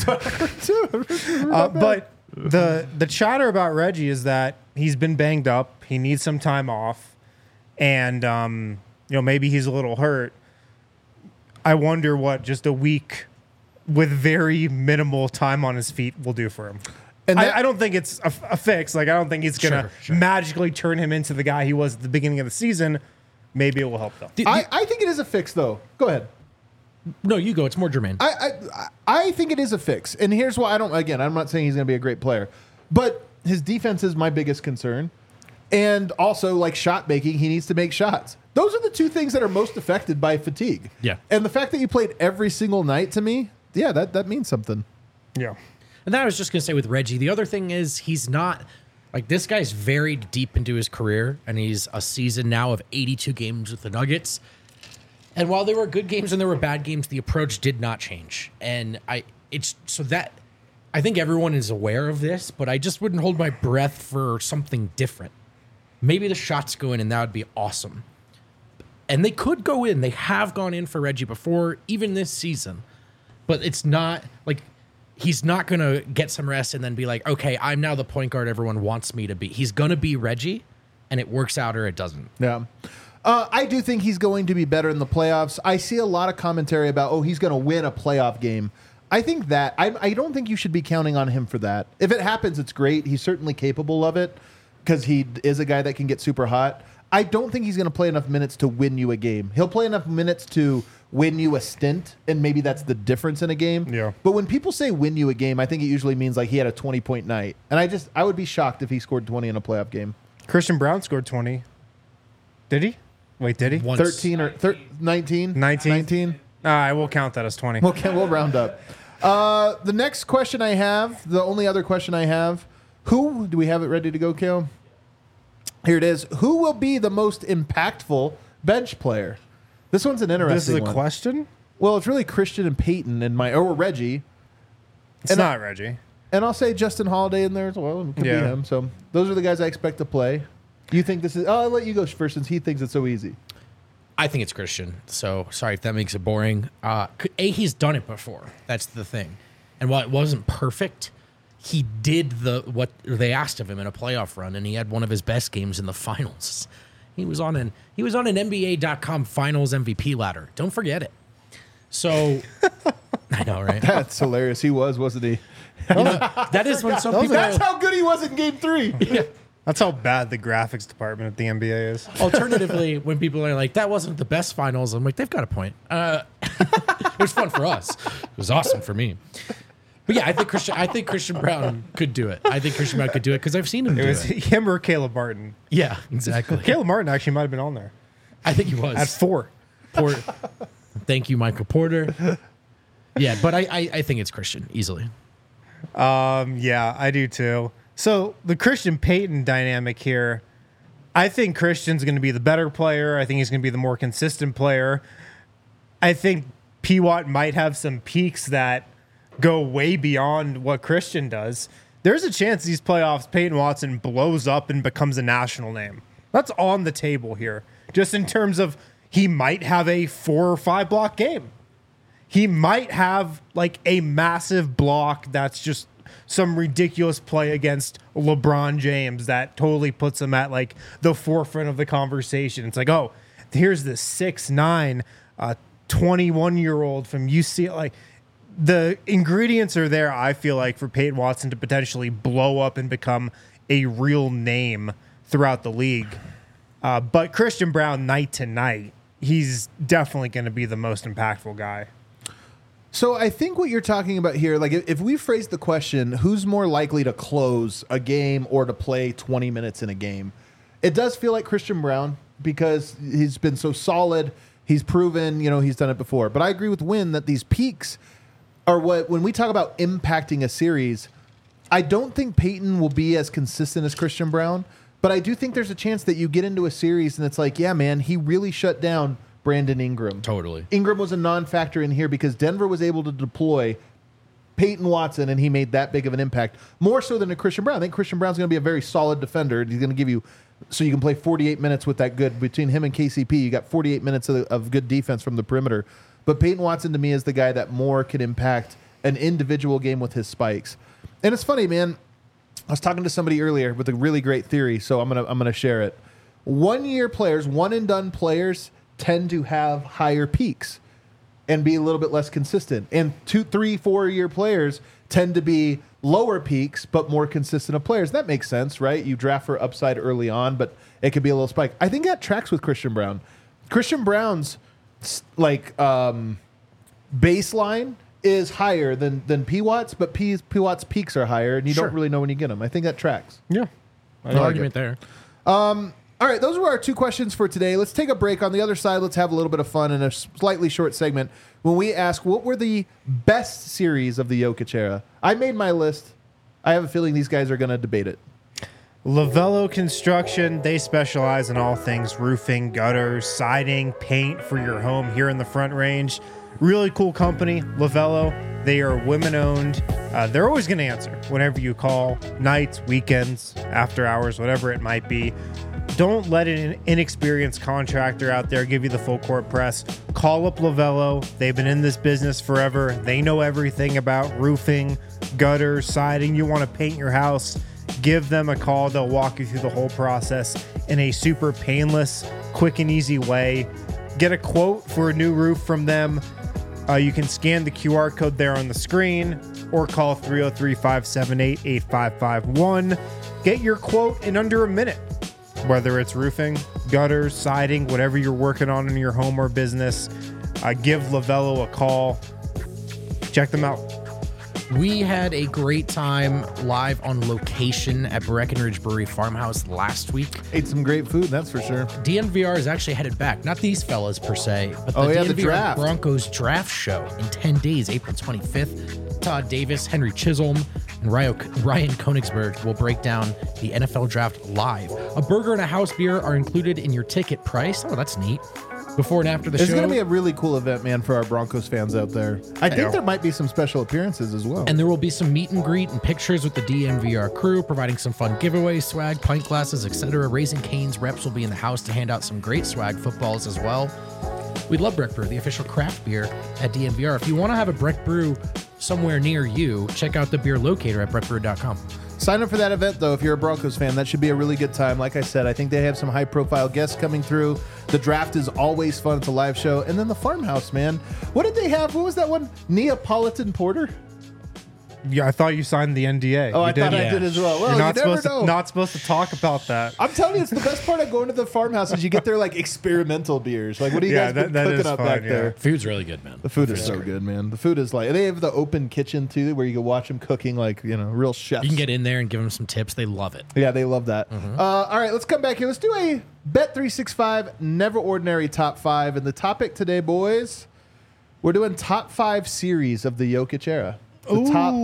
But the chatter about Reggie is that he's been banged up. He needs some time off, and maybe he's a little hurt. I wonder what just a week with very minimal time on his feet will do for him. And I don't think it's a fix. Like, I don't think he's gonna magically turn him into the guy he was at the beginning of the season. Maybe it will help though. I think it is a fix, though. Go ahead. No, you go. It's more germane. I think it is a fix. And here's why I'm not saying he's going to be a great player, but his defense is my biggest concern. And also, like, shot making, he needs to make shots. Those are the two things that are most affected by fatigue. Yeah. And the fact that you played every single night, to me, yeah, that means something. Yeah. And that I was just going to say with Reggie, the other thing is he's not, like, this guy's very deep into his career, and he's a season now of 82 games with the Nuggets. And while there were good games and there were bad games, the approach did not change. And I think everyone is aware of this, but I just wouldn't hold my breath for something different. Maybe the shots go in, and that would be awesome. And they could go in. They have gone in for Reggie before, even this season. But it's not like he's not going to get some rest and then be like, okay, I'm now the point guard everyone wants me to be. He's going to be Reggie, and it works out or it doesn't. Yeah. I do think he's going to be better in the playoffs. I see a lot of commentary about, he's going to win a playoff game. I think that I don't think you should be counting on him for that. If it happens, it's great. He's certainly capable of it because he is a guy that can get super hot. I don't think he's going to play enough minutes to win you a game. He'll play enough minutes to win you a stint, and maybe that's the difference in a game. Yeah. But when people say win you a game, I think it usually means like he had a 20-point night. And I would be shocked if he scored 20 in a playoff game. Christian Brown scored 20. Did he? Wait, did he? 13 or 19? 19? I will count that as 20. We'll round up. The next question I have, the only other question I have, do we have it ready to go, Kale? Here it is. Who will be the most impactful bench player? This one's an interesting one. This is a question? Well, it's really Christian and Peyton or Reggie. It's not Reggie. And I'll say Justin Holiday in there as well. It could be him. So those are the guys I expect to play. Do you think this is... I'll let you go first since he thinks it's so easy. I think it's Christian. So sorry if that makes it boring. He's done it before. That's the thing. And while it wasn't perfect, he did what they asked of him in a playoff run, and he had one of his best games in the finals. He was on an NBA.com Finals MVP ladder. Don't forget it. So I know, right? That's hilarious. He was, wasn't he? That is when some people. That's how good he was in Game 3. Yeah. That's how bad the graphics department at the NBA is. Alternatively, when people are like, that wasn't the best finals, I'm like, they've got a point. It was fun for us. It was awesome for me. But yeah, I think Christian Braun could do it. I think Christian Braun could do it because I've seen him do it. It was him or Caleb Martin. Yeah, exactly. Caleb Martin actually might have been on there. I think he was. At 4. Thank you, Michael Porter. Yeah, but I think it's Christian, easily. Yeah, I do too. So the Christian Peyton dynamic here, I think Christian's going to be the better player. I think he's going to be the more consistent player. I think P. Watt might have some peaks that go way beyond what Christian does. There's a chance these playoffs, Peyton Watson blows up and becomes a national name. That's on the table here. Just in terms of he might have a 4 or 5 block game. He might have like a massive block that's just some ridiculous play against LeBron James that totally puts him at like the forefront of the conversation. It's like, oh, here's this 6'9", 21-year-old from UCLA. Like, the ingredients are there, I feel like, for Peyton Watson to potentially blow up and become a real name throughout the league. But Christian Braun, night to night, he's definitely going to be the most impactful guy. So I think what you're talking about here, like if we phrase the question, who's more likely to close a game or to play 20 minutes in a game? It does feel like Christian Braun because he's been so solid. He's proven, he's done it before. But I agree with Wynn that these peaks are when we talk about impacting a series, I don't think Peyton will be as consistent as Christian Braun, but I do think there's a chance that you get into a series and it's like, yeah, man, he really shut down Brandon Ingram. Totally. Ingram was a non-factor in here because Denver was able to deploy Peyton Watson, and he made that big of an impact, more so than a Christian Braun. I think Christian Braun's going to be a very solid defender. He's going to give you, so you can play 48 minutes with that good. Between him and KCP, you got 48 minutes of good defense from the perimeter. But Peyton Watson, to me, is the guy that more can impact an individual game with his spikes. And it's funny, man. I was talking to somebody earlier with a really great theory, so I'm gonna share it. 1-year players, one-and-done players, tend to have higher peaks and be a little bit less consistent. And 2, 3, 4-year players tend to be lower peaks but more consistent of players. That makes sense, right? You draft for upside early on, but it could be a little spike. I think that tracks with Christian Braun. Christian Braun's baseline is higher than P. Watt's, but P. Watt's peaks are higher, and you don't really know when you get them. I think that tracks. Yeah. No argument there. All right, those were our 2 questions for today. Let's take a break. On the other side, let's have a little bit of fun in a slightly short segment when we ask what were the best series of the Jokic era. I made my list. I have a feeling these guys are going to debate it. Lavello Construction, they specialize in all things roofing, gutters, siding, paint for your home here in the Front Range. Really cool company, Lavello. They are women-owned. They're always going to answer whenever you call, nights, weekends, after hours, whatever it might be. Don't let an inexperienced contractor out there give you the full court press. Call up Lavello. They've been in this business forever. They know everything about roofing, gutters, siding. You want to paint your house, give them a call. They'll walk you through the whole process in a super painless, quick and easy way. Get a quote for a new roof from them. You can scan the QR code there on the screen or call 303-578-8551. Get your quote in under a minute. Whether it's roofing, gutters, siding, whatever you're working on in your home or business, give Lavello a call. Check them out. We had a great time live on location at Breckenridge Brewery Farmhouse last week. Ate some great food, that's for sure. DNVR is actually headed back. Not these fellas per se, but the DNVR the draft. Broncos draft show in 10 days, April 25th. Todd Davis, Henry Chisholm, and Ryan Konigsberg will break down the NFL draft live. A burger and a house beer are included in your ticket price. Oh, that's neat. Before and after the show. It's going to be a really cool event, man, for our Broncos fans out there. I think there might be some special appearances as well. And there will be some meet and greet and pictures with the DNVR crew, providing some fun giveaways, swag, pint glasses, etc. Raising Cane's reps will be in the house to hand out some great swag footballs as well. We love Breck Brew, the official craft beer at DNVR. If you want to have a Breck Brew somewhere near you, check out the beer locator at breckbrew.com. Sign up for that event, though, if you're a Broncos fan. That should be a really good time. Like I said, I think they have some high-profile guests coming through. The draft is always fun. It's a live show. And then the farmhouse, man. What did they have? What was that one? Neapolitan Porter? Yeah, I thought you signed the NDA. Oh, you I thought I did as well. Well, You're not you never supposed know. to not supposed to talk about that. I'm telling you, it's the best part of going to the farmhouse is you get their, like, experimental beers. Like, what are you guys been that cooking is up fun, back yeah. there? Food's really good, man. The food is so good, man. The food is like, they have the open kitchen, too, where you can watch them cooking like, real chefs. You can get in there and give them some tips. They love it. Yeah, they love that. All right, let's come back here. Let's do a Bet365 Never Ordinary Top 5. And the topic today, boys, we're doing top 5 series of the Jokic era. The top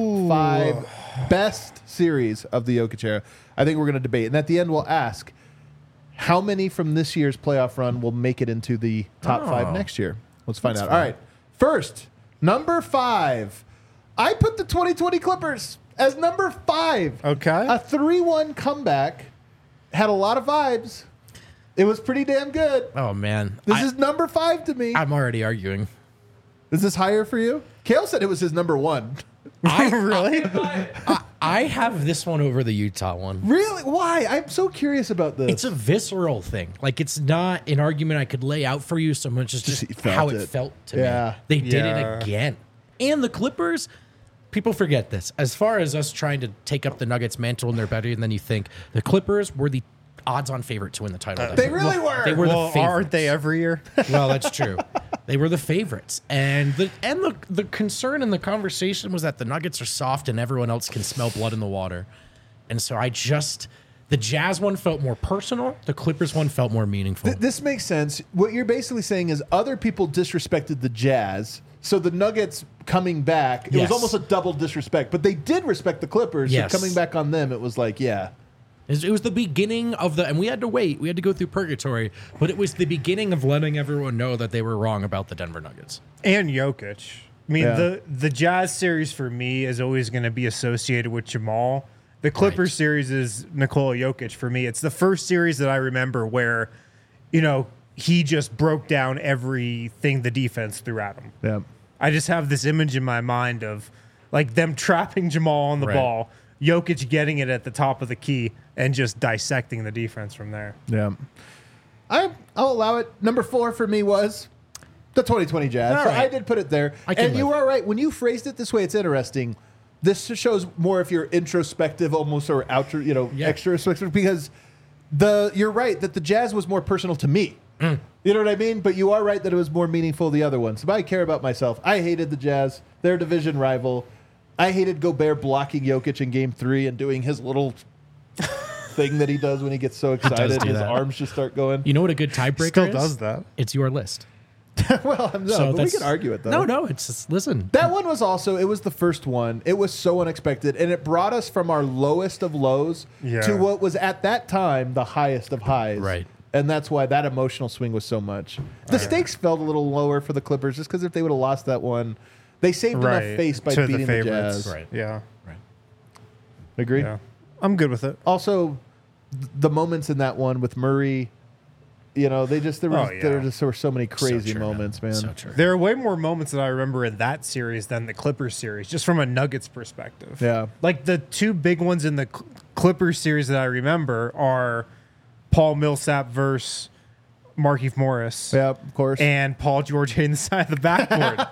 5 best series of the Jokic era. I think we're going to debate. And at the end, we'll ask how many from this year's playoff run will make it into the top 5 next year. Let's find out. All right. First, number 5. I put the 2020 Clippers as number 5. Okay. A 3-1 comeback. Had a lot of vibes. It was pretty damn good. Oh, man. This is number 5 to me. I'm already arguing. Is this higher for you? Kale said it was his number 1. Really? I have this one over the Utah one. Really? Why? I'm so curious about this. It's a visceral thing. Like, it's not an argument I could lay out for you so much as just you felt how it. it felt to Yeah. me. They did Yeah. it again. And the Clippers, people forget this. As far as us trying to take up the Nuggets' mantle and they're better than you think, the Clippers were the odds-on favorite to win the title. that They year. really were. They were Well, the favorites. aren't they every year? Well, that's true. They were the favorites, and the concern in the conversation was that the Nuggets are soft and everyone else can smell blood in the water, and so the Jazz one felt more personal. The Clippers one felt more meaningful. This makes sense. What you're basically saying is other people disrespected the Jazz, so the Nuggets coming back, it Yes. was almost a double disrespect. But they did respect the Clippers, Yes. so coming back on them, it was like, yeah. It was the beginning of and we had to wait. We had to go through purgatory, but it was the beginning of letting everyone know that they were wrong about the Denver Nuggets. And Jokic. I mean, Yeah. the Jazz series for me is always going to be associated with Jamal. The Clippers Right. series is Nikola Jokic for me. It's the first series that I remember where, he just broke down everything the defense threw at him. Yeah. I just have this image in my mind of like them trapping Jamal on the Right. ball, Jokic getting it at the top of the key, and just dissecting the defense from there. Yeah. I'll allow it. Number 4 for me was the 2020 Jazz. All So right. I did put it there. I can And you live. are right. When you phrased it this way, it's interesting. This shows more if you're introspective almost or outer, extra introspective because you're right that the Jazz was more personal to me. You know what I mean? But you are right that it was more meaningful the other ones. If I care about myself, I hated the Jazz. Their division rival. I hated Gobert blocking Jokic in Game 3 and doing his little thing that he does when he gets so excited. do His that. arms just start going. You know what a good tiebreaker Still is? does that. It's your list. Well, no, So but we that's- can argue it though. No, it's just, listen. That one was also, it was the first one. It was so unexpected. And it brought us from our lowest of lows Yeah. to what was at that time the highest of highs. Right. And that's why that emotional swing was so much. The stakes felt a little lower for the Clippers just because if they would have lost that one, they saved enough face by to beating the favorites. Jazz. Right. Yeah. Agree? Yeah. I'm good with it. Also, the moments in that one with Murray, there were so many crazy So true, moments, man. So true. There are way more moments that I remember in that series than the Clippers series, just from a Nuggets perspective. Yeah. Like the two big ones in the Clippers series that I remember are Paul Millsap versus Markieff Morris. Yeah, of course. And Paul George hitting the side of the backboard.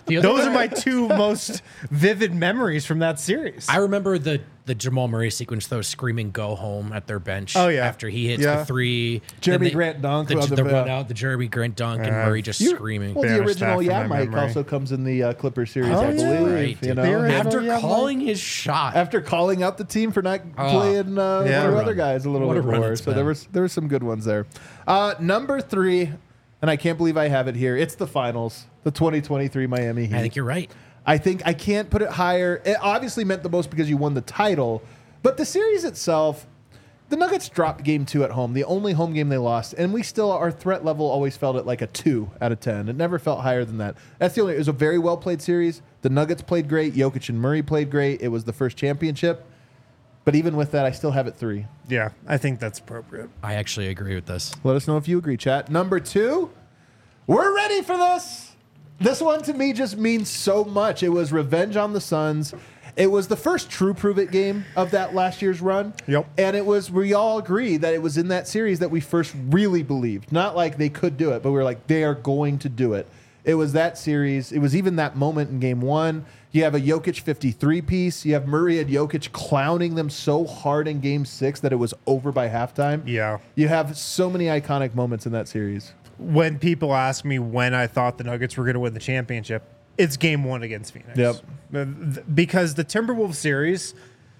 Those are my two most vivid memories from that series. I remember the Jamal Murray sequence, though, screaming "Go home" at their bench. Oh, yeah. After he hits the three, Jeremy Grant dunk, the run out, the Jeremy Grant dunk, and Murray just screaming. Well, the Banish original that from my Mike memory. also comes in the Clipper series, Oh, I yeah. believe. Right, You dude. know, After Yeah, calling his shot, after calling out the team for not playing one Yeah. of other guys a little What bit a run more. it's So been. there were some good ones there. Number 3, and I can't believe I have it here. It's the finals, the 2023 Miami Heat. I think you're right. I think I can't put it higher. It obviously meant the most because you won the title, but the series itself, the Nuggets dropped game 2 at home, the only home game they lost, and our threat level always felt at like a 2 out of 10. It never felt higher than that. It was a very well played series. The Nuggets played great. Jokic and Murray played great. It was the first championship. But even with that, I still have it 3. Yeah, I think that's appropriate. I actually agree with this. Let us know if you agree, chat. Number 2, we're ready for this. This one to me just means so much. It was Revenge on the Suns. It was the first true prove it game of that last year's run. Yep. And we all agree that it was in that series that we first really believed. Not like they could do it, but we were like, they are going to do it. It was that series. It was even that moment in game 1. You have a Jokic 53 piece. You have Murray and Jokic clowning them so hard in game 6 that it was over by halftime. Yeah. You have so many iconic moments in that series. When people ask me when I thought the Nuggets were going to win the championship, it's game 1 against Phoenix. Yep. Because the Timberwolves series,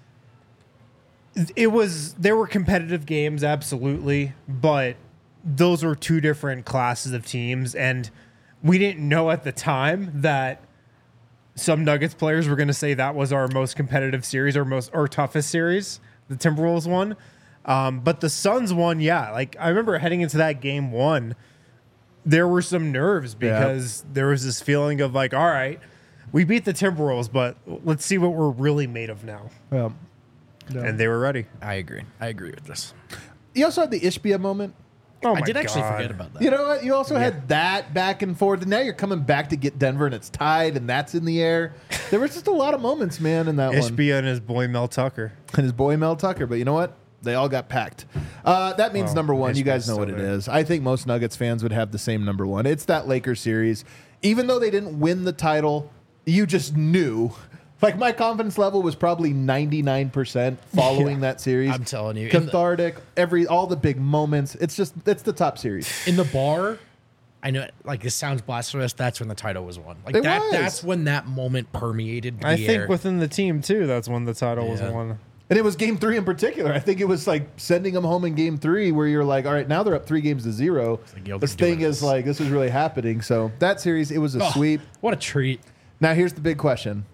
there were competitive games, absolutely, but those were two different classes of teams, and we didn't know at the time that some Nuggets players were going to say that was our most competitive series or toughest series, the Timberwolves one. But the Suns one, yeah. Like, I remember heading into that game 1, there were some nerves because there was this feeling of like, all right, we beat the Timberwolves, but let's see what we're really made of now. And they were ready. I agree. I agree with this. You also had the Ishbia moment. Oh I my did actually God. forget about that. You know what? You also had that back and forth, and now you're coming back to get Denver, and it's tied, and that's in the air. There was just a lot of moments, man, in that one. Ishbia and his boy Mel Tucker. And his boy Mel Tucker. But you know what? They all got packed. That means Well, number 1. You guys Ishbia's know what still it there. is. I think most Nuggets fans would have the same number 1. It's that Lakers series. Even though they didn't win the title, you just knew. Like, my confidence level was probably 99% following that series. I'm telling you. Cathartic, all the big moments. It's the top series. In the bar, I know, like, this sounds blasphemous. That's when the title was won. Like, It was. that's when that moment permeated the I air. think within the team, too, that's when the title was Yeah. won. And it was game 3 in particular. I think it was like sending them home in game 3 where you're like, all right, now they're up 3-0. like, yo, This they're thing doing is this. like, this is really happening. So that series, it was a sweep. What a treat. Now, here's the big question.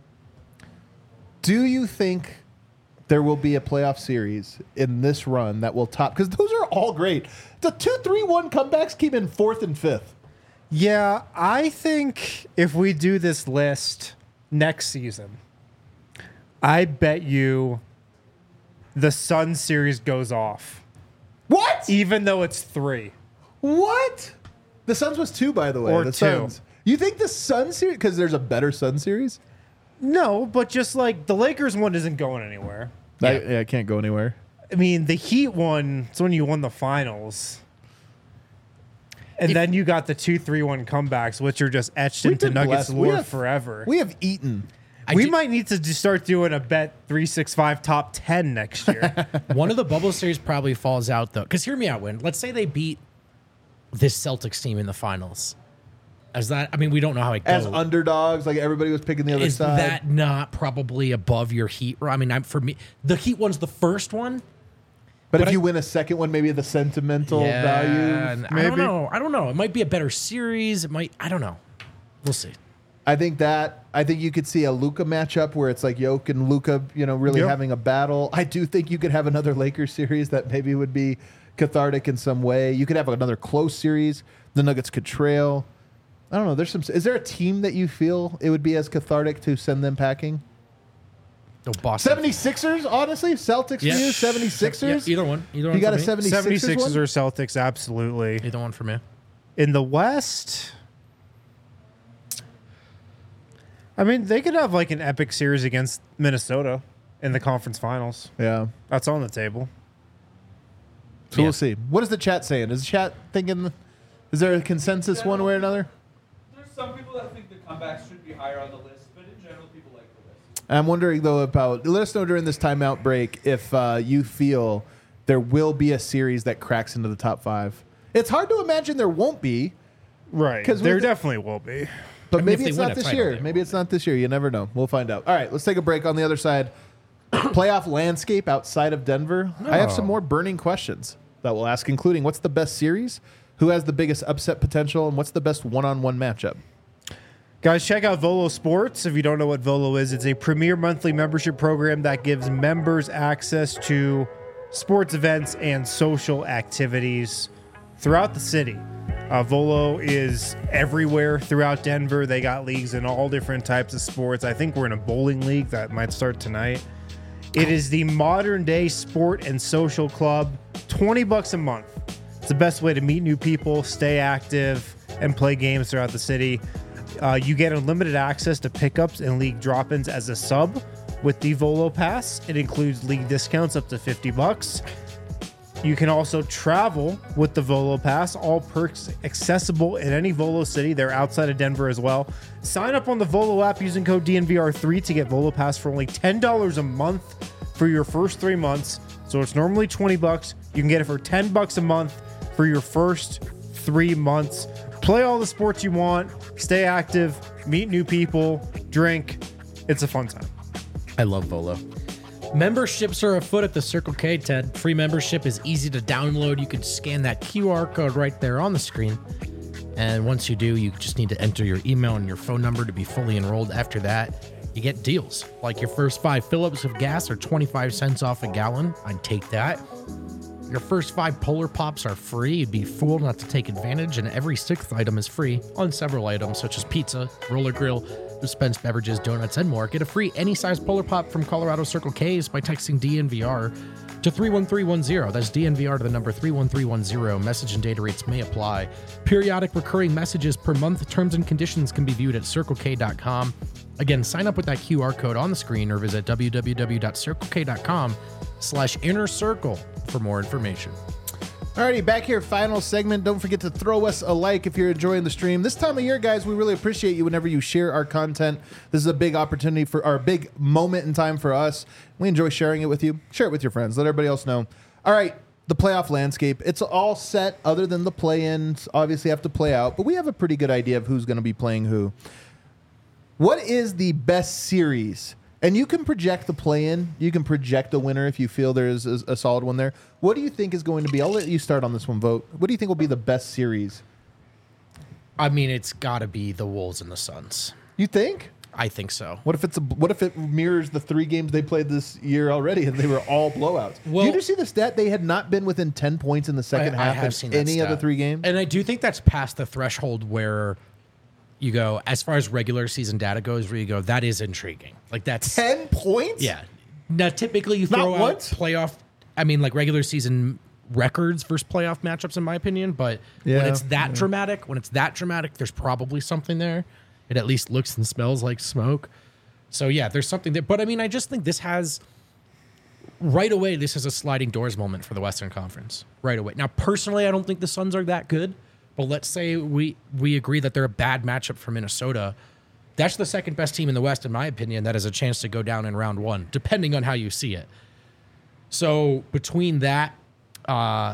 Do you think there will be a playoff series in this run that will top? Because those are all great. The 2-3-1 comebacks came in 4th and 5th. Yeah, I think if we do this list next season, I bet you the Sun series goes off. What? Even though it's 3. What? The Suns was 2, by the way. Or the 2. Suns. You think the Sun series, because there's a better Sun series? No, but just like the Lakers one isn't going anywhere. I can't go anywhere. I mean, the Heat one, it's when you won the finals. And then you got the 2-3-1 comebacks, which are just etched We've into been Nuggets blessed. We lore have- forever. We have eaten. We might need to start doing a bet 365 top 10 next year. One of the bubble series probably falls out, though. Because hear me out, Win. Let's say they beat this Celtics team in the finals. We don't know how it goes. As underdogs, like everybody was picking the other Is side. that not probably above your Heat? I mean, for me, the Heat one's the first one. But if I- you win a second one, maybe the sentimental value. and I maybe. don't know. I don't know. It might be a better series. It might. I don't know. We'll see. I think you could see a Luka matchup where it's like Jokic and Luka, really Yep. having a battle. I do think you could have another Lakers series that maybe would be cathartic in some way. You could have another close series. The Nuggets could trail. I don't know. Is there a team that you feel it would be as cathartic to send them packing? Oh, Boston. 76ers, honestly? Celtics Yeah. for you? 76ers? Yeah, either one. Either one. You got for a me. 76ers 76ers one? or Celtics, absolutely. Either one for me. In the West, I mean, they could have like an epic series against Minnesota in the conference finals. Yeah. That's on the table. So Yeah. we'll see. What is the chat saying? Is the chat thinking, is there a consensus one way or another? There's some people that think the comebacks should be higher on the list, but in general, people like the list. I'm wondering, though, let us know during this timeout break if you feel there will be a series that cracks into the top 5. It's hard to imagine there won't be. Right. Because there definitely will be. But maybe it's not this year. Maybe it's not this year. You never know. We'll find out. All right, let's take a break. On the other side, playoff landscape outside of Denver. I have some more burning questions that we'll ask, including what's the best series, who has the biggest upset potential, and what's the best one-on-one matchup. Guys, check out Volo Sports. If you don't know what Volo is, it's a premier monthly membership program that gives members access to sports events and social activities throughout the city. Volo is everywhere throughout Denver. They got leagues in all different types of sports. I think we're in a bowling league that might start tonight. It is the modern day sport and social club, $20 a month. It's the best way to meet new people, stay active, and play games throughout the city. You get unlimited access to pickups and league drop-ins as a sub with the Volo Pass. It includes league discounts up to $50. You can also travel with the Volo Pass. All perks accessible in any Volo city. They're outside of Denver as well. Sign up on the Volo app using code DNVR3 to get Volo Pass for only $10 a month for your first 3 months. So it's normally $20. You can get it for $10 a month for your first 3 months. Play all the sports you want. Stay active. Meet new people. Drink. It's a fun time. I love Volo. Memberships are afoot at the Circle K, Ted. Free membership is easy to download. You can scan that QR code right there on the screen. And once you do, you just need to enter your email and your phone number to be fully enrolled. After that, you get deals. Like your first 5 fill-ups of gas are 25 cents off a gallon. I'd take that. Your first 5 Polar Pops are free. You'd be fooled not to take advantage. And every 6th item is free on several items, such as pizza, roller grill, dispensed beverages, donuts, and more. Get a free any size Polar Pop from Colorado Circle K's by texting DNVR to 31310. That's DNVR to the number 31310. Message and data rates may apply. Periodic recurring messages per month. Terms and conditions can be viewed at CircleK.com. Again, sign up with that QR code on the screen or visit www.circlek.com/innercircle for more information. Alrighty, back here, final segment. Don't forget to throw us a like if you're enjoying the stream. This time of year, guys, we really appreciate you whenever you share our content. This is a big opportunity for our big moment in time for us. We enjoy sharing it with you. Share it with your friends. Let everybody else know. All right, the playoff landscape. It's all set other than the play-ins. Obviously have to play out, but we have a pretty good idea of who's going to be playing who. What is the best series? And you can project the play-in. You can project a winner if you feel there's a solid one there. What do you think is going to be? I'll let you start on this one, Vote. What do you think will be the best series? I mean, it's got to be the Wolves and the Suns. You think? I think so. What if it mirrors the 3 games they played this year already and they were all blowouts? Well, did you see the stat? They had not been within 10 points in the second half in any of the 3 games. And I do think that's past the threshold where you go, as far as regular season data goes, where you go, that is intriguing. Like that's 10 points? Yeah. Now, typically you throw out playoff, like regular season records versus playoff matchups, in my opinion. But when it's that dramatic, there's probably something there. It at least looks and smells like smoke. So yeah, there's something there. But I mean, I just think this is a sliding doors moment for the Western Conference right away. Now, personally, I don't think the Suns are that good. But let's say we agree that they're a bad matchup for Minnesota. That's the second best team in the West, in my opinion, that has a chance to go down in round 1, depending on how you see it. So between that and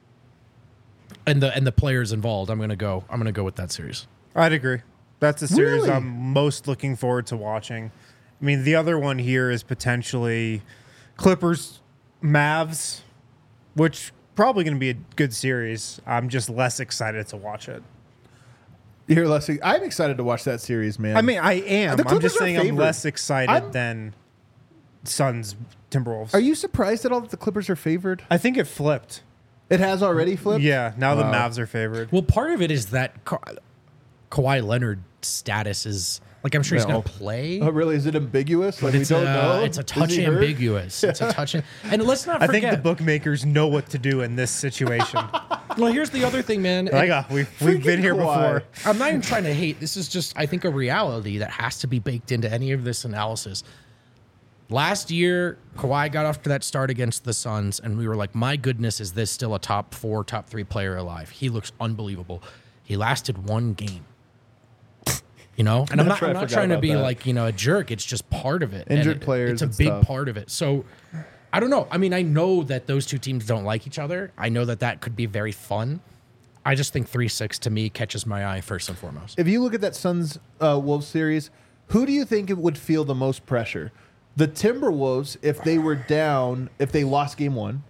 the players involved, I'm gonna go with that series. I'd agree. That's the series I'm most looking forward to watching. I mean, the other one here is potentially Clippers, Mavs, which probably going to be a good series. I'm just less excited to watch it. You're less. I'm excited to watch that series, man. I mean, I am. I'm just saying I'm less excited than Suns, Timberwolves. Are you surprised at all that the Clippers are favored? I think it flipped. It has already flipped? Yeah, now the Mavs are favored. Well, part of it is that Kawhi Leonard's status is... Like, I'm sure he's going to play. Oh, really? Is it ambiguous? Like, we don't know. It's a touch ambiguous. It's a touch. And let's not forget. I think the bookmakers know what to do in this situation. Well, here's the other thing, man. We've been here before. I'm not even trying to hate. This is just, I think, a reality that has to be baked into any of this analysis. Last year, Kawhi got off to that start against the Suns, and we were like, my goodness, is this still a top 4, top 3 player alive? He looks unbelievable. He lasted 1 game. You know, and I'm That's not, right, I'm I not forgot trying to about be that. like, a jerk. It's just part of it. And Injured players It's a and big stuff. part of it. So I don't know. I mean, I know that those two teams don't like each other. I know that could be very fun. I just think 3-6 to me catches my eye first and foremost. If you look at that Suns Wolves series, who do you think it would feel the most pressure? The Timberwolves, if they were down, if they lost game 1,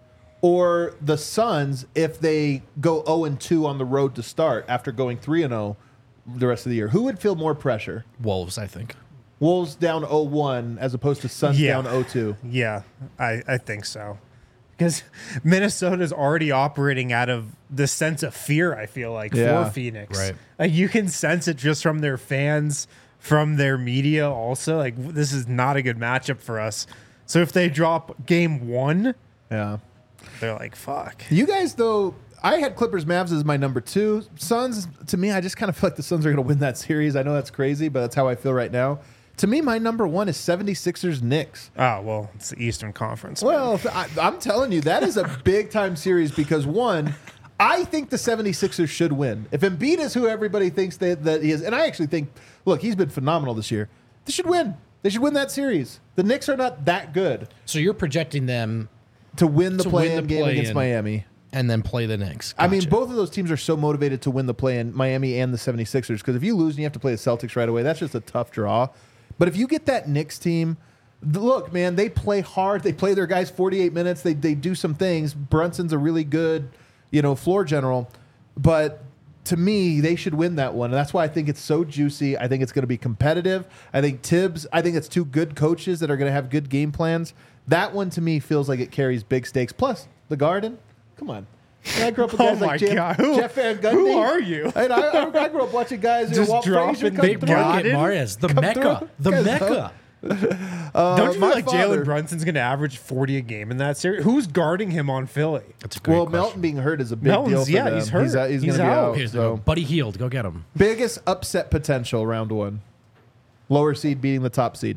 or the Suns, if they go 0-2 on the road to start after going 3-0 the rest of the year? Who would feel more pressure? Wolves, I think. Wolves down 0-1 as opposed to Suns Yeah. down 0-2. Yeah, I think so. Because Minnesota's already operating out of the sense of fear, I feel like, Yeah. for Phoenix. Right. Like, you can sense it just from their fans, from their media also. Like, this is not a good matchup for us. So if they drop game 1, Yeah. they're like, fuck. You guys, though, I had Clippers Mavs as my number 2. Suns, to me, I just kind of feel like the Suns are going to win that series. I know that's crazy, but that's how I feel right now. To me, my number 1 is 76ers Knicks. Oh, well, it's the Eastern Conference. man. Well, I'm telling you, that is a big-time series because, one, I think the 76ers should win. If Embiid is who everybody thinks that he is, and I actually think, look, he's been phenomenal this year. They should win. They should win that series. The Knicks are not that good So you're projecting them to win the To win play-in the game against play-in. Miami. and then play the Knicks. I mean, Gotcha. both of those teams are so motivated to win the play-in, Miami and the 76ers, because if you lose and you have to play the Celtics right away, that's just a tough draw. But if you get that Knicks team, look, man, they play hard. They play their guys 48 minutes. They do some things. Brunson's a really good, floor general. But to me, they should win that one. And that's why I think it's so juicy. I think it's going to be competitive. I think it's two good coaches that are going to have good game plans. That one to me feels like it carries big stakes. Plus, the Garden. Come on. And I grew up with guys Oh like my God. Jeff Van Gundy. Who are you? And I grew up watching guys Just Walt dropping Frazier come big through. Garden? Marius, the Come Mecca. through. The Guys, Mecca. Don't you my feel like father- Jalen Brunson's going to average 40 a game in that series? Who's guarding him on Philly? That's a great Well, question. Melton being hurt is a big Melton's- deal for yeah, them. he's hurt. He's going He's to be out. out. Here's So. Buddy Hield. Go get him. Biggest upset potential round 1. Lower seed beating the top seed.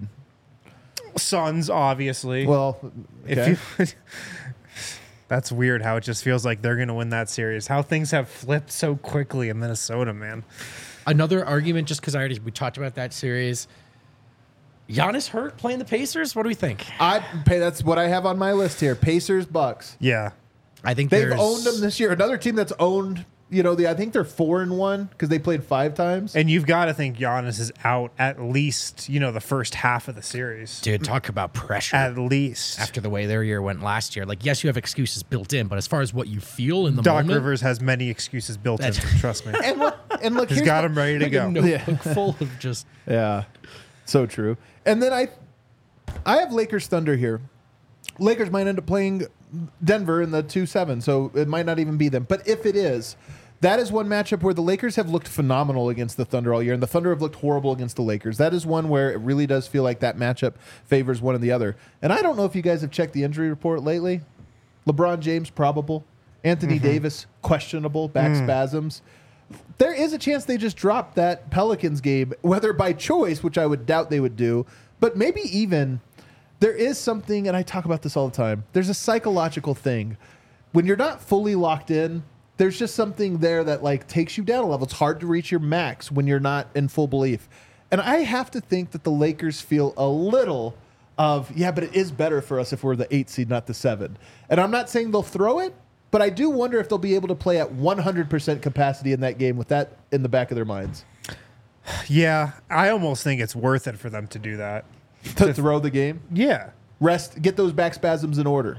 Suns, obviously. Well, okay. If you, that's weird how it just feels like they're going to win that series. How things have flipped so quickly in Minnesota, man. Another argument, just because we talked about that series. Giannis hurt playing the Pacers. What do we think? That's what I have on my list here. Pacers, Bucks. Yeah. I think They've there's- owned them this year. Another team that's owned, I think they're 4-1 because they played 5 times. And you've got to think Giannis is out at least, the first half of the series. Dude, talk about pressure. At least. After the way their year went last year. Like, yes, you have excuses built in, but as far as what you feel in the Doc moment, Rivers has many excuses built in, That's- trust me. And look, He's here's got the- him ready to like go. a notebook full of just Yeah, so true. And then I have Lakers Thunder here. Lakers might end up playing Denver in the 2-7, so it might not even be them. But if it is, that is one matchup where the Lakers have looked phenomenal against the Thunder all year, and the Thunder have looked horrible against the Lakers. That is one where it really does feel like that matchup favors one and the other. And I don't know if you guys have checked the injury report lately. LeBron James, probable. Anthony Davis, questionable, back spasms. There is a chance they just drop that Pelicans game, whether by choice, which I would doubt they would do, but maybe even there is something, and I talk about this all the time, there's a psychological thing. When you're not fully locked in, there's just something there that takes you down a level. It's hard to reach your max when you're not in full belief. And I have to think that the Lakers feel a little of, but it is better for us if we're the 8 seed, not the 7. And I'm not saying they'll throw it, but I do wonder if they'll be able to play at 100% capacity in that game with that in the back of their minds. Yeah, I almost think it's worth it for them to do that. To throw the game, Yeah. rest, get those back spasms in order.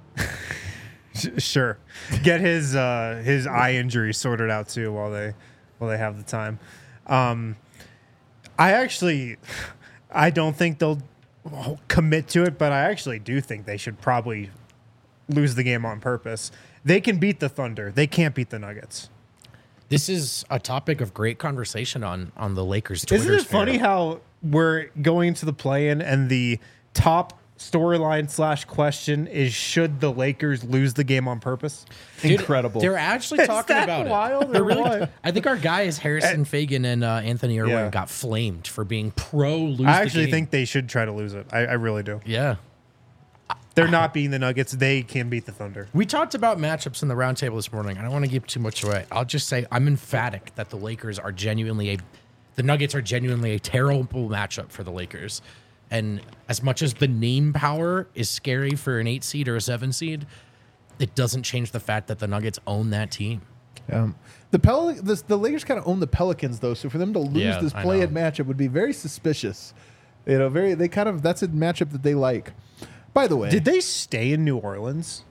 Sure. Get his eye injury sorted out too while they have the time. I don't think they'll commit to it, but I actually do think they should probably lose the game on purpose. They can beat the Thunder. They can't beat the Nuggets. This is a topic of great conversation on the Lakers Twitter. Isn't it funny how we're going into the play-in and the top storyline / question is, should the Lakers lose the game on purpose? Incredible. They're actually talking that about wild it. or They're really, what? I think our guys Harrison Fagan and Anthony Irwin Yeah. got flamed for being pro lose. I actually the game. think they should try to lose it. I really do. Yeah. They're not beating the Nuggets. They can beat the Thunder. We talked about matchups in the roundtable this morning. I don't want to give too much away. I'll just say I'm emphatic that the Lakers are genuinely The Nuggets are genuinely a terrible matchup for the Lakers. And as much as the name power is scary for an 8 seed or a 7 seed, it doesn't change the fact that the Nuggets own that team. The Lakers kind of own the Pelicans though, so for them to lose this play-in matchup would be very suspicious. You know, that's a matchup that they like. By the way, did they stay in New Orleans?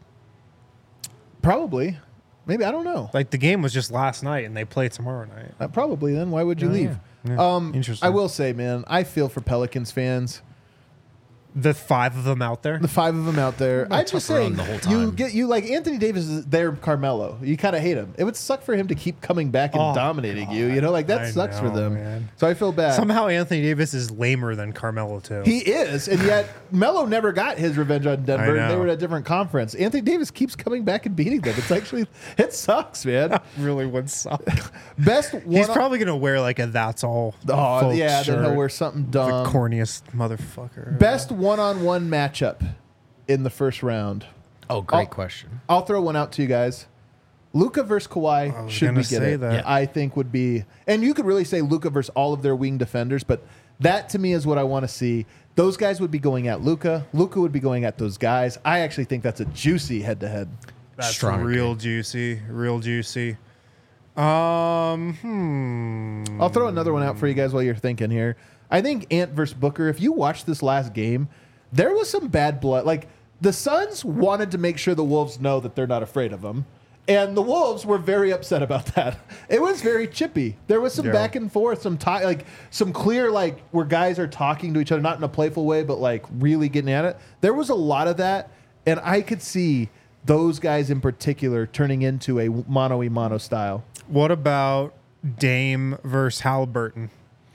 Probably. Maybe, I don't know. Like the game was just last night and they play tomorrow night. Probably then. Why would you leave? Yeah. Interesting. I will say, man, I feel for Pelicans fans. The 5 of them out there. The 5 of them out there. I just say the whole time. you like Anthony Davis is their Carmelo. You kind of hate him. It would suck for him to keep coming back and dominating you. You know, like that sucks for them. Man. So I feel bad. Somehow Anthony Davis is lamer than Carmelo too. He is, and yet Melo never got his revenge on Denver. I know. They were at a different conference. Anthony Davis keeps coming back and beating them. It sucks, man. Really would suck. Best one. He's probably gonna wear like a "That's All." Oh yeah, shirt. then he'll wear something dumb. The corniest motherfucker. Best one-on-one matchup in the first round. Oh, great question. I'll throw one out to you guys. Luka versus Kawhi, should we get it? That. Yeah. I think would be, and you could really say Luka versus all of their wing defenders, but that to me is what I want to see. Those guys would be going at Luka. Luka would be going at those guys. I actually think that's a juicy head-to-head. That's Strong real agree. juicy. Real juicy. I'll throw another one out for you guys while you're thinking here. I think Ant versus Booker, if you watch this last game, there was some bad blood. Like, the Suns wanted to make sure the Wolves know that they're not afraid of them. And the Wolves were very upset about that. It was very chippy. There was some back and forth, some clear, like, where guys are talking to each other, not in a playful way, but, like, really getting at it. There was a lot of that, and I could see those guys in particular turning into a mano-a-mano style. What about Dame versus Halliburton?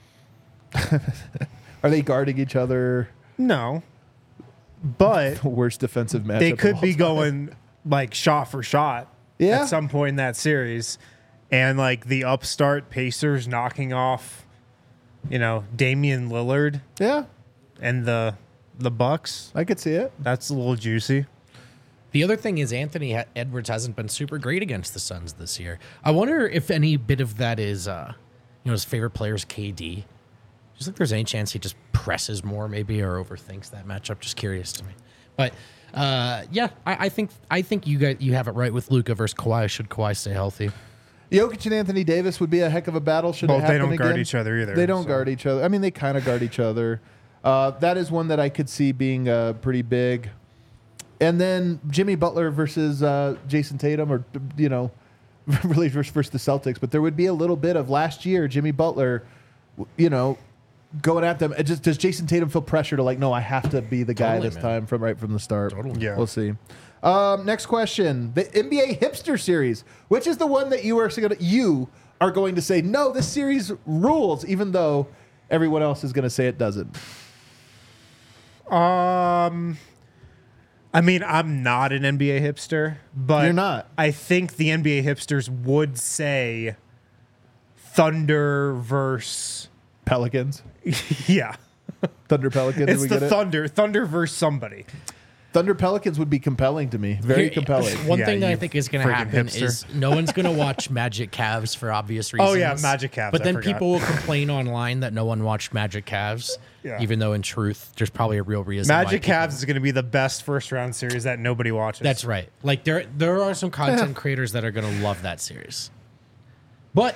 Are they guarding each other? No. But The worst defensive matchup. they of could all be time. going like shot for shot Yeah. at some point in that series. And like the upstart Pacers knocking off, Damian Lillard Yeah, and the Bucks. I could see it. That's a little juicy. The other thing is Anthony Edwards hasn't been super great against the Suns this year. I wonder if any bit of that is, his favorite player is KD. Just think there's any chance he just presses more maybe or overthinks that matchup. Just curious to me. But I think you have it right with Luka versus Kawhi. Should Kawhi stay healthy? Jokic and Anthony Davis would be a heck of a battle. Should Well, it happen they don't again. guard each other either. They don't guard each other. I mean, they kind of guard each other. That is one that I could see being pretty big. And then Jimmy Butler versus Jason Tatum, or really versus the Celtics. But there would be a little bit of last year Jimmy Butler, going at them. Does Jason Tatum feel pressure to no, I have to be the guy Totally, this man. time from right from the start? Totally. Yeah. We'll see. Next question: the NBA Hipster Series, which is the one that you are going to say no, this series rules, even though everyone else is going to say it doesn't. I mean, I'm not an NBA hipster, but You're not. I think the NBA hipsters would say Thunder versus Pelicans, yeah. Thunder Pelicans. It's we the get it? Thunder versus somebody. Thunder Pelicans would be compelling to me. Very Here- compelling. One Yeah, thing that I you think is going to freaking happen hipster. is no one's going to watch Magic Cavs for obvious reasons. Oh, yeah, Magic Cavs, But I then forgot. people will complain online that no one watched Magic Cavs, Yeah. even though in truth, there's probably a real reason. why Magic people- Cavs is going to be the best first round series that nobody watches. That's right. Like there are some content creators that are going to love that series. But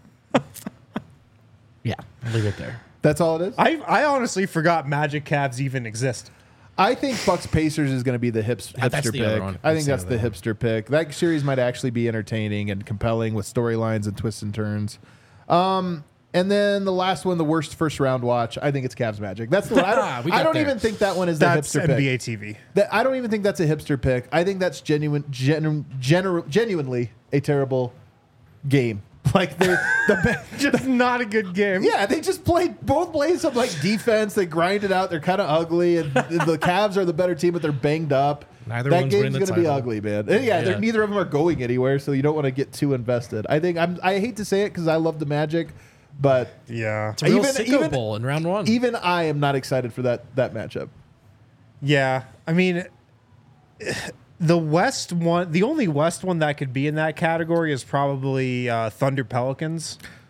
yeah, I'll leave it there. That's all it is. I honestly forgot Magic Cavs even exist. I think Bucks Pacers is going to be the hipster That's the other pick. one. I think That's that's the the other hipster pick. That series might actually be entertaining and compelling with storylines and twists and turns. And then the last one, the worst first round watch. I think it's Cavs Magic. That's the one. We I got don't there. even think that one is the That's hipster NBA pick. TV. I don't even think that's a hipster pick. I think that's genuinely a terrible game. Like Just not a good game. yeah, they just played some defense. They grind it out. They're kind of ugly, and the Cavs are the better team, but they're banged up. Neither that one's game's winning the going to be title. ugly, man. And Yeah. neither of them are going anywhere, so you don't want to get too invested. I hate to say it because I love the Magic, but Yeah. It's a real Even- sicko even- bowl in round one. even I am not excited for that matchup. Yeah. I mean, the West one, the only West one that could be in that category is probably Thunder Pelicans.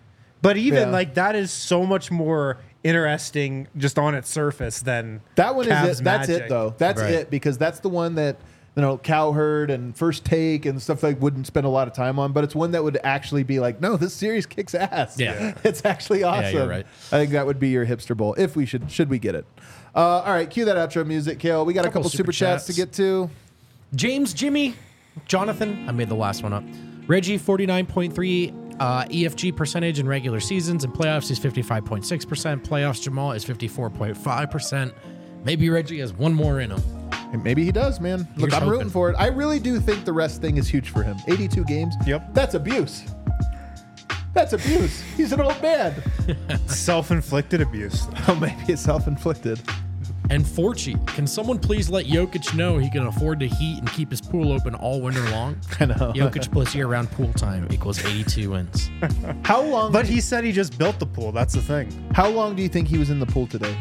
But even Yeah. like that is so much more interesting just on its surface than That one Cavs is it. That's Magic. it, though. That's Right. it, because that's the one that, Cowherd and First Take and stuff like wouldn't spend a lot of time on, but it's one that would actually be like, no, this series kicks ass. Yeah. It's actually awesome. Yeah, you're right. I think that would be your hipster bowl if we should we get it. All right, cue that outro music, Kale. We got a couple super chats to get to. James, Jimmy, Jonathan. I made the last one up. Reggie, 49.3 EFG percentage in regular seasons and playoffs is 55.6%. Playoffs, Jamal is 54.5%. Maybe Reggie has one more in him. And maybe he does, man. Look, Here's I'm rooting hoping. for it. I really do think the rest thing is huge for him. 82 games. Yep. That's abuse. That's abuse. He's an old man. self-inflicted abuse. Oh, maybe it's self-inflicted. And Forchi, can someone please let Jokic know he can afford to heat and keep his pool open all winter long? I know. Jokic plus year-round pool time equals 82 wins. How long? But he said he just built the pool. That's the thing. How long do you think he was in the pool today?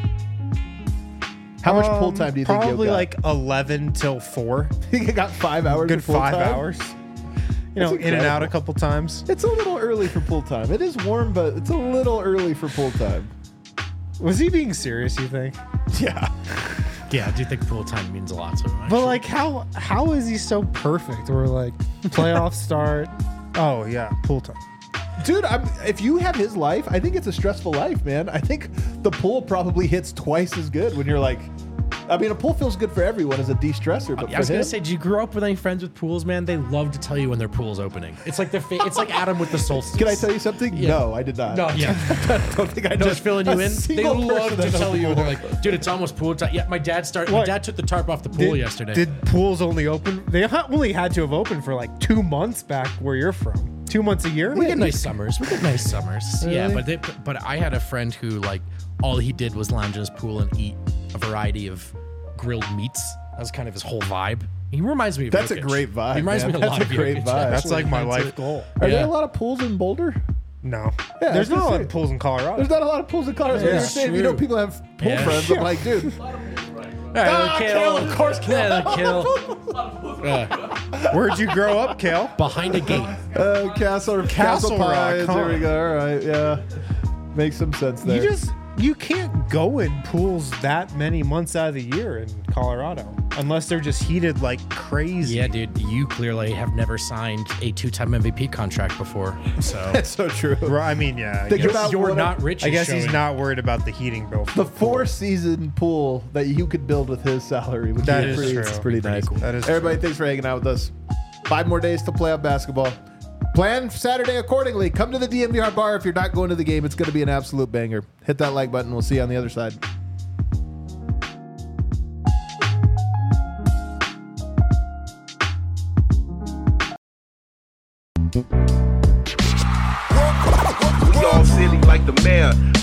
How much pool time do you think Probably Jokic got? like 11 till 4. He got 5 hours. Good of pool 5 time? hours. You know, That's in and out incredible. a couple times. It's a little early for pool time. It is warm, but it's a little early for pool time. Was he being serious, you think? Yeah. Yeah, I do think pool time means a lot to him. But actually. like how is he so perfect? We're like playoff start. Oh yeah, pool time. Dude, if you have his life, I think it's a stressful life, man. I think the pool probably hits twice as good when you're like, I mean, a pool feels good for everyone as a de-stressor, but I was for gonna him, say, do you grow up with any friends with pools, man? They love to tell you when their pool's opening. It's like it's like Adam with the solstice. can I tell you something? Yeah. No, I did not. No, yeah. I don't think I know. Just filling you a in. They single love person to that knows tell the you. pool. They're like, dude, it's almost pool time. Yeah, my dad took the tarp off the pool yesterday. Did pools only open? They only had to have opened for like 2 months back where you're from. 2 months a year. We get nice summers. Yeah, Really? but I had a friend who like all he did was lounge in his pool and eat a variety of grilled meats. That was kind of his whole vibe. He reminds me of That's a Jokic. great vibe, He reminds man. me a That's lot a of great Jokic, vibe. actually. That's like my That's life it. goal. Are Yeah. there a lot of pools in Boulder? No, Yeah, I was there's not a gonna lot say. of pools in Colorado. There's not a lot of pools in Colorado. Yeah. You're saying, True. people have pool Yeah. friends. I'm like, dude. All right, Kale, of course, Kale. Yeah, Kale. Where'd you grow up, Kale? Behind a gate. Castle Castle Rock, Pines. huh? There we go. All right, yeah. Makes some sense there. You can't go in pools that many months out of the year in Colorado unless they're just heated like crazy. Yeah, dude, you clearly have never signed a 2-time MVP contract before. So That's so true. Right, I mean, yeah. I Think guess, about you're what not rich. I is guess he's showing. not worried about the heating bill. The 4-season pool that you could build with his salary would That be is pretty, true. it's pretty nice. cool. That is Everybody, thanks for hanging out with us. 5 more days to playoff basketball. Plan Saturday accordingly. Come to the DNVR bar if you're not going to the game. It's going to be an absolute banger. Hit that like button. We'll see you on the other side. We all silly like the mayor.